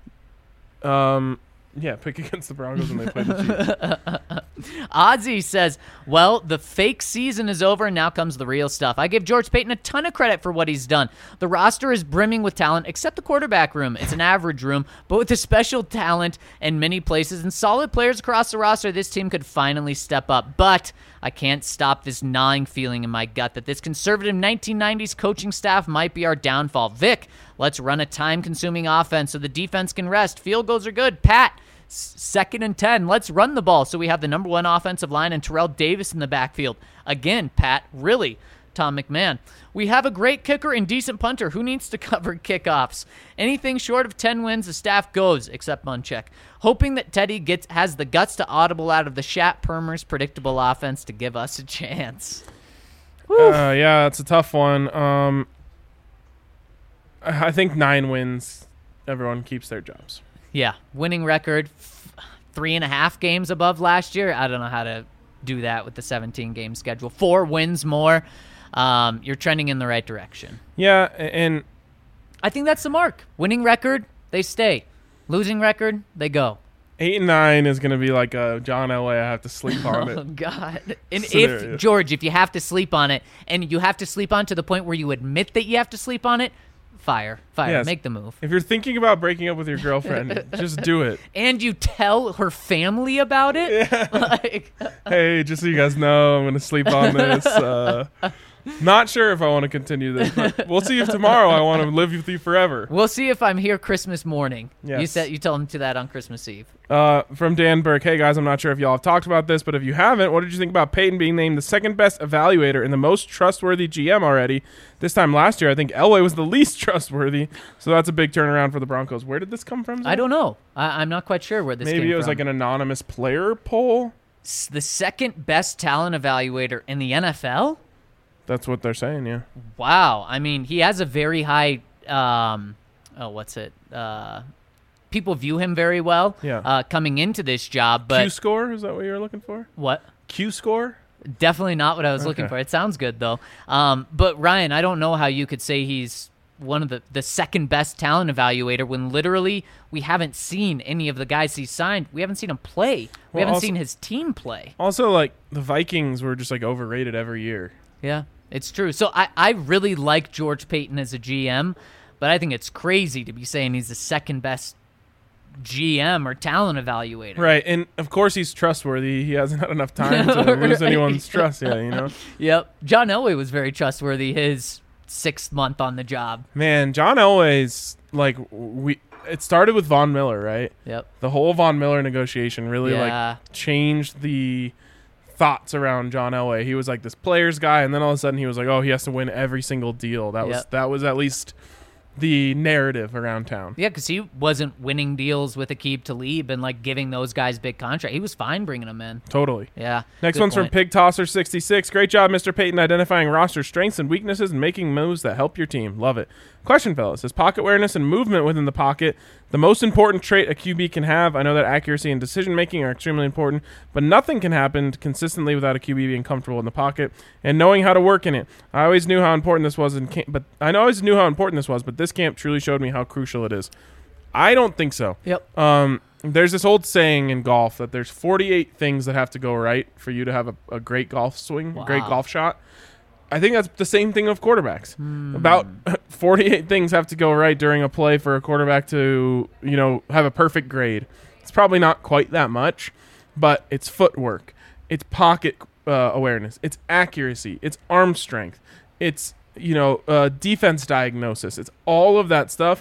Yeah, pick against the Broncos when they play the Chiefs. Ozzy says, well, the fake season is over and now comes the real stuff. I give George Payton a ton of credit for what he's done. The roster is brimming with talent except the quarterback room. It's an average room, but with the special talent in many places and solid players across the roster, this team could finally step up. But I can't stop this gnawing feeling in my gut that this conservative 1990s coaching staff might be our downfall. Vic, let's run a time-consuming offense so the defense can rest. Field goals are good. Pat, 2nd and 10. Let's run the ball so we have the number 1 offensive line and Terrell Davis in the backfield. Again, Pat, really, Tom McMahon. We have a great kicker and decent punter. Who needs to cover kickoffs? Anything short of 10 wins, the staff goes, except Munchak. Hoping that Teddy has the guts to audible out of the Shat Permer's predictable offense to give us a chance. Yeah, it's a tough one. I think 9 wins, everyone keeps their jobs. Yeah, winning record, 3.5 games above last year. I don't know how to do that with the 17-game schedule. 4 wins more. You're trending in the right direction. Yeah, and I think that's the mark. Winning record, they stay. Losing record, they go. 8 and 9 is going to be like a John Elway. I have to sleep on it. Oh, God. And Scenario. George, if you have to sleep on it, and you have to sleep on to the point where you admit that you have to sleep on it, fire. Yes. Make the move. If you're thinking about breaking up with your girlfriend, just do it. And you tell her family about it? Yeah. Like, Hey, just so you guys know, I'm going to sleep on this. Not sure if I want to continue this, but we'll see if tomorrow I want to live with you forever. we'll see if I'm here Christmas morning. Yes. You tell him to that on Christmas Eve. From Dan Burke, hey guys, I'm not sure if y'all have talked about this, but if you haven't, what did you think about Peyton being named the second best evaluator and the most trustworthy GM already? This time last year, I think Elway was the least trustworthy, so that's a big turnaround for the Broncos. Where did this come from, Zach? I don't know. I'm not quite sure where this came from. Maybe it was like an anonymous player poll? The second best talent evaluator in the NFL? That's what they're saying, yeah. Wow. I mean, he has a very high, people view him very well coming into this job. But Q-score, is that what you were looking for? What? Q-score? Definitely not what I was looking for. It sounds good, though. But, Ryan, I don't know how you could say he's one of the second best talent evaluator when literally we haven't seen any of the guys he's signed. We haven't seen him play. We haven't seen his team play. Also, like, the Vikings were just, like, overrated every year. Yeah, it's true. So I really like George Payton as a GM, but I think it's crazy to be saying he's the second best GM or talent evaluator. Right, and of course he's trustworthy. He hasn't had enough time to lose anyone's trust yet, you know? Yep. John Elway was very trustworthy his 6th month on the job. Man, John Elway's, like, it started with Von Miller, right? Yep. The whole Von Miller negotiation really, like, changed the thoughts around John Elway. He was like this players guy, and then all of a sudden he was like, oh, he has to win every single deal. That was at least the narrative around town. Yeah, because he wasn't winning deals with Aqib Talib and like giving those guys big contract. He was fine bringing them in. Totally. Yeah. Next one's from Pig Tosser 66. Great job, Mr. Payton, identifying roster strengths and weaknesses and making moves that help your team. Love it. Question, fellas. Is pocket awareness and movement within the pocket the most important trait a QB can have? I know that accuracy and decision-making are extremely important, but nothing can happen consistently without a QB being comfortable in the pocket and knowing how to work in it. I always knew how important this was, but this camp truly showed me how crucial it is. I don't think so. Yep. There's this old saying in golf that there's 48 things that have to go right for you to have a great golf swing, a great golf shot. I think that's the same thing of quarterbacks. About 48 things have to go right during a play for a quarterback to, have a perfect grade. It's probably not quite that much, but it's footwork, it's pocket awareness, it's accuracy, it's arm strength, it's defense diagnosis. It's all of that stuff.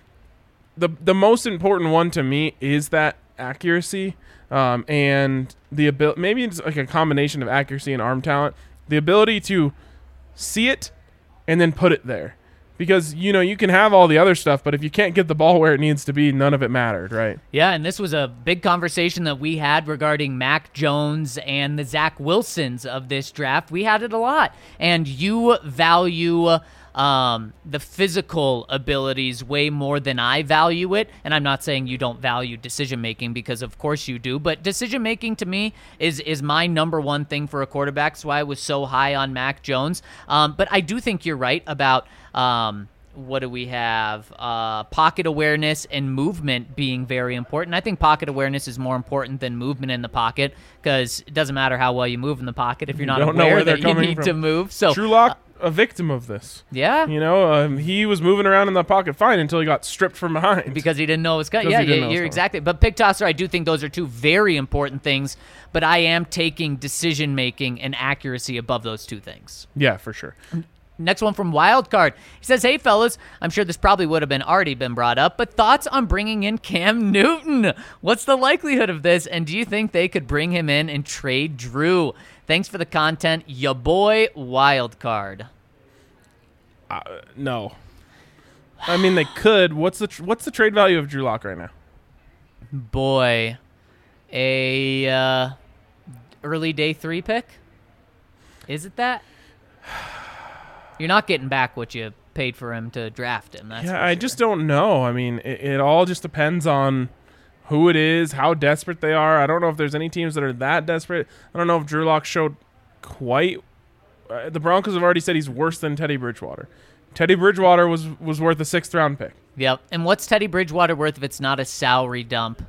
The most important one to me is that accuracy and the ability. Maybe it's like a combination of accuracy and arm talent. The ability to see it and then put it there, because you can have all the other stuff, but if you can't get the ball where it needs to be, none of it mattered, right? Yeah, and this was a big conversation that we had regarding Mac Jones and the Zach Wilsons of this draft. We had it a lot, and you value the physical abilities way more than I value it. And I'm not saying you don't value decision-making, because of course you do, but decision-making to me is my number one thing for a quarterback. That's why I was so high on Mac Jones. But I do think you're right about what do we have? Pocket awareness and movement being very important. I think pocket awareness is more important than movement in the pocket, because it doesn't matter how well you move in the pocket if you're not aware that you need to move. So Drew Lock, a victim of this. Yeah. He was moving around in the pocket fine until he got stripped from behind. Because he didn't know it was coming. Yeah, you're exactly. But Pig Tosser, I do think those are two very important things, but I am taking decision-making and accuracy above those two things. Yeah, for sure. Next one from Wildcard. He says, hey, fellas, I'm sure this probably would have already been brought up, but thoughts on bringing in Cam Newton? What's the likelihood of this, and do you think they could bring him in and trade Drew? Thanks for the content, ya boy, Wildcard. No. I mean, they could. What's the trade value of Drew Lock right now? Boy, a early day 3 pick? Is it that? You're not getting back what you paid for him to draft him. That's I just don't know. I mean, it all just depends on who it is, how desperate they are. I don't know if there's any teams that are that desperate. I don't know if Drew Lock showed quite. The Broncos have already said he's worse than Teddy Bridgewater. Teddy Bridgewater was worth a 6th round pick. Yep. And what's Teddy Bridgewater worth if it's not a salary dump?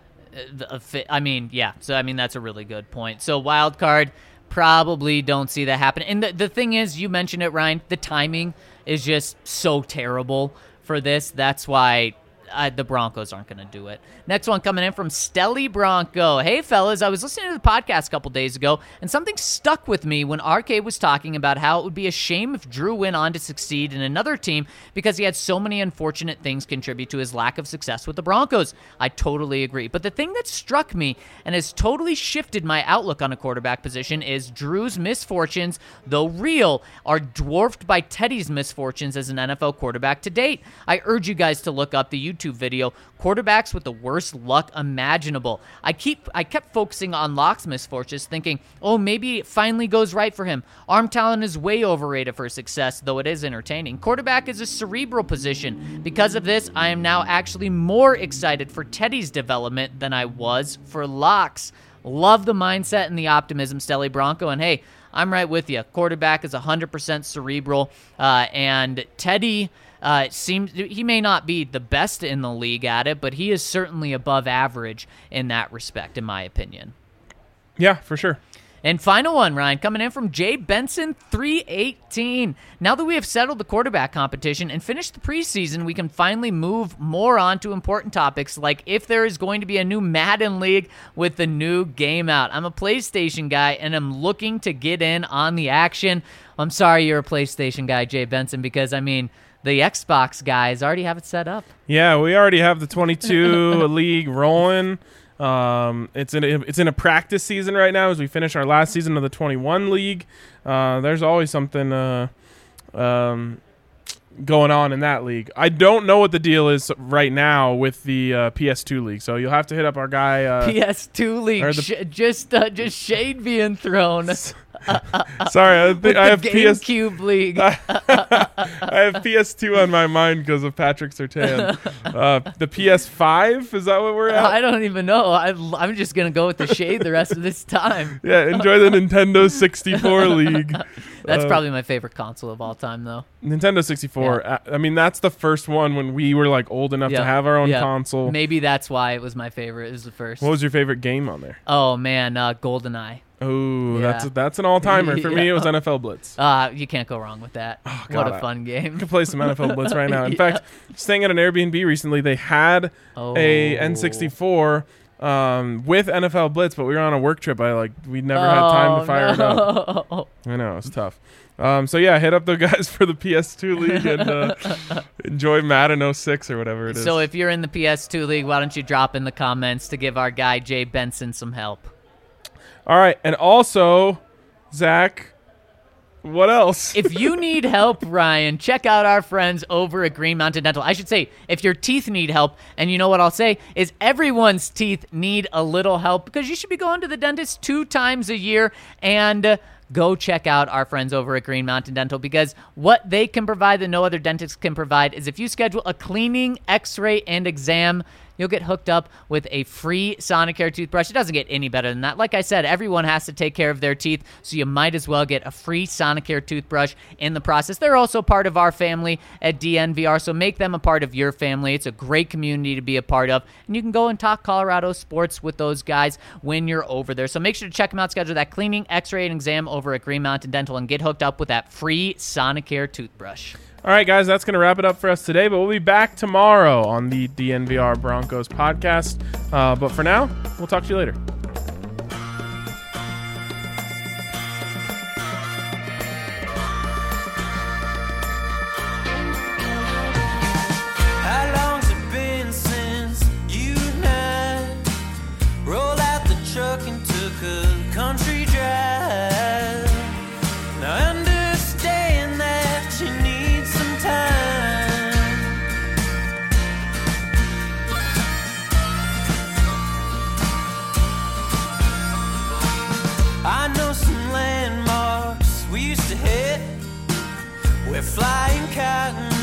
I mean, yeah. So, I mean, that's a really good point. So, wild card, probably don't see that happen. And the thing is, you mentioned it, Ryan, the timing is just so terrible for this. That's why the Broncos aren't going to do it. Next one coming in from Stelly Bronco. Hey, fellas, I was listening to the podcast a couple days ago, and something stuck with me when RK was talking about how it would be a shame if Drew went on to succeed in another team because he had so many unfortunate things contribute to his lack of success with the Broncos. I totally agree. But the thing that struck me and has totally shifted my outlook on a quarterback position is Drew's misfortunes, though real, are dwarfed by Teddy's misfortunes as an NFL quarterback to date. I urge you guys to look up the YouTube video, quarterbacks with the worst luck imaginable. I kept focusing on Lock's misfortunes, thinking, oh, maybe it finally goes right for him. Arm talent is way overrated for success, though it is entertaining. Quarterback is a cerebral position. Because of this, I am now actually more excited for Teddy's development than I was for Lock's. Love the mindset and the optimism, Stelly Bronco, and hey, I'm right with you. Quarterback is 100% cerebral, and Teddy he may not be the best in the league at it, but he is certainly above average in that respect, in my opinion. Yeah, for sure. And final one, Ryan, coming in from Jay Benson 318. Now that we have settled the quarterback competition and finished the preseason, we can finally move more on to important topics like if there is going to be a new Madden League with the new game out. I'm a PlayStation guy, and I'm looking to get in on the action. I'm sorry you're a PlayStation guy, Jay Benson, because, I mean, the Xbox guys already have it set up. Yeah, we already have the 22 league rolling. It's in a practice season right now as we finish our last season of the 21 league. There's always something going on in that league. I don't know what the deal is right now with the PS2 league, so you'll have to hit up our guy. PS2 league, just shade being thrown. Sorry, I have GameCube league. I have PS2 on my mind because of Patrick Surtain. The PS5, is that what we're at? I don't even know. I'm just gonna go with the shade the rest of this time. Yeah, enjoy the Nintendo 64 league. That's probably my favorite console of all time, though. Nintendo 64. Yeah. I mean, that's the first one when we were like old enough to have our own console. Maybe that's why it was my favorite. It was the first. What was your favorite game on there? Oh man, GoldenEye. Oh, that's an all-timer. For me, it was NFL Blitz. You can't go wrong with that. Oh, God, what a fun game. I could play some NFL Blitz right now. In fact, staying at an Airbnb recently, they had a N64 with NFL Blitz, but we were on a work trip. We never had time to fire it up. I know, it's tough. So yeah, hit up the guys for the PS2 league and enjoy Madden 06 or whatever it is. So if you're in the PS2 league, why don't you drop in the comments to give our guy Jay Benson some help? All right, and also, Zach, what else? If you need help, Ryan, check out our friends over at Green Mountain Dental. I should say, if your teeth need help, and you know what I'll say, is everyone's teeth need a little help because you should be going to the dentist 2 times a year, and go check out our friends over at Green Mountain Dental because what they can provide that no other dentist can provide is if you schedule a cleaning, x-ray, and exam, you'll get hooked up with a free Sonicare toothbrush. It doesn't get any better than that. Like I said, everyone has to take care of their teeth, so you might as well get a free Sonicare toothbrush in the process. They're also part of our family at DNVR, so make them a part of your family. It's a great community to be a part of, and you can go and talk Colorado sports with those guys when you're over there. So make sure to check them out, schedule that cleaning, x-ray, and exam over at Green Mountain Dental, and get hooked up with that free Sonicare toothbrush. All right, guys, that's going to wrap it up for us today, but we'll be back tomorrow on the DNVR Broncos podcast. But for now, we'll talk to you later. I know some landmarks we used to hit where flying cotton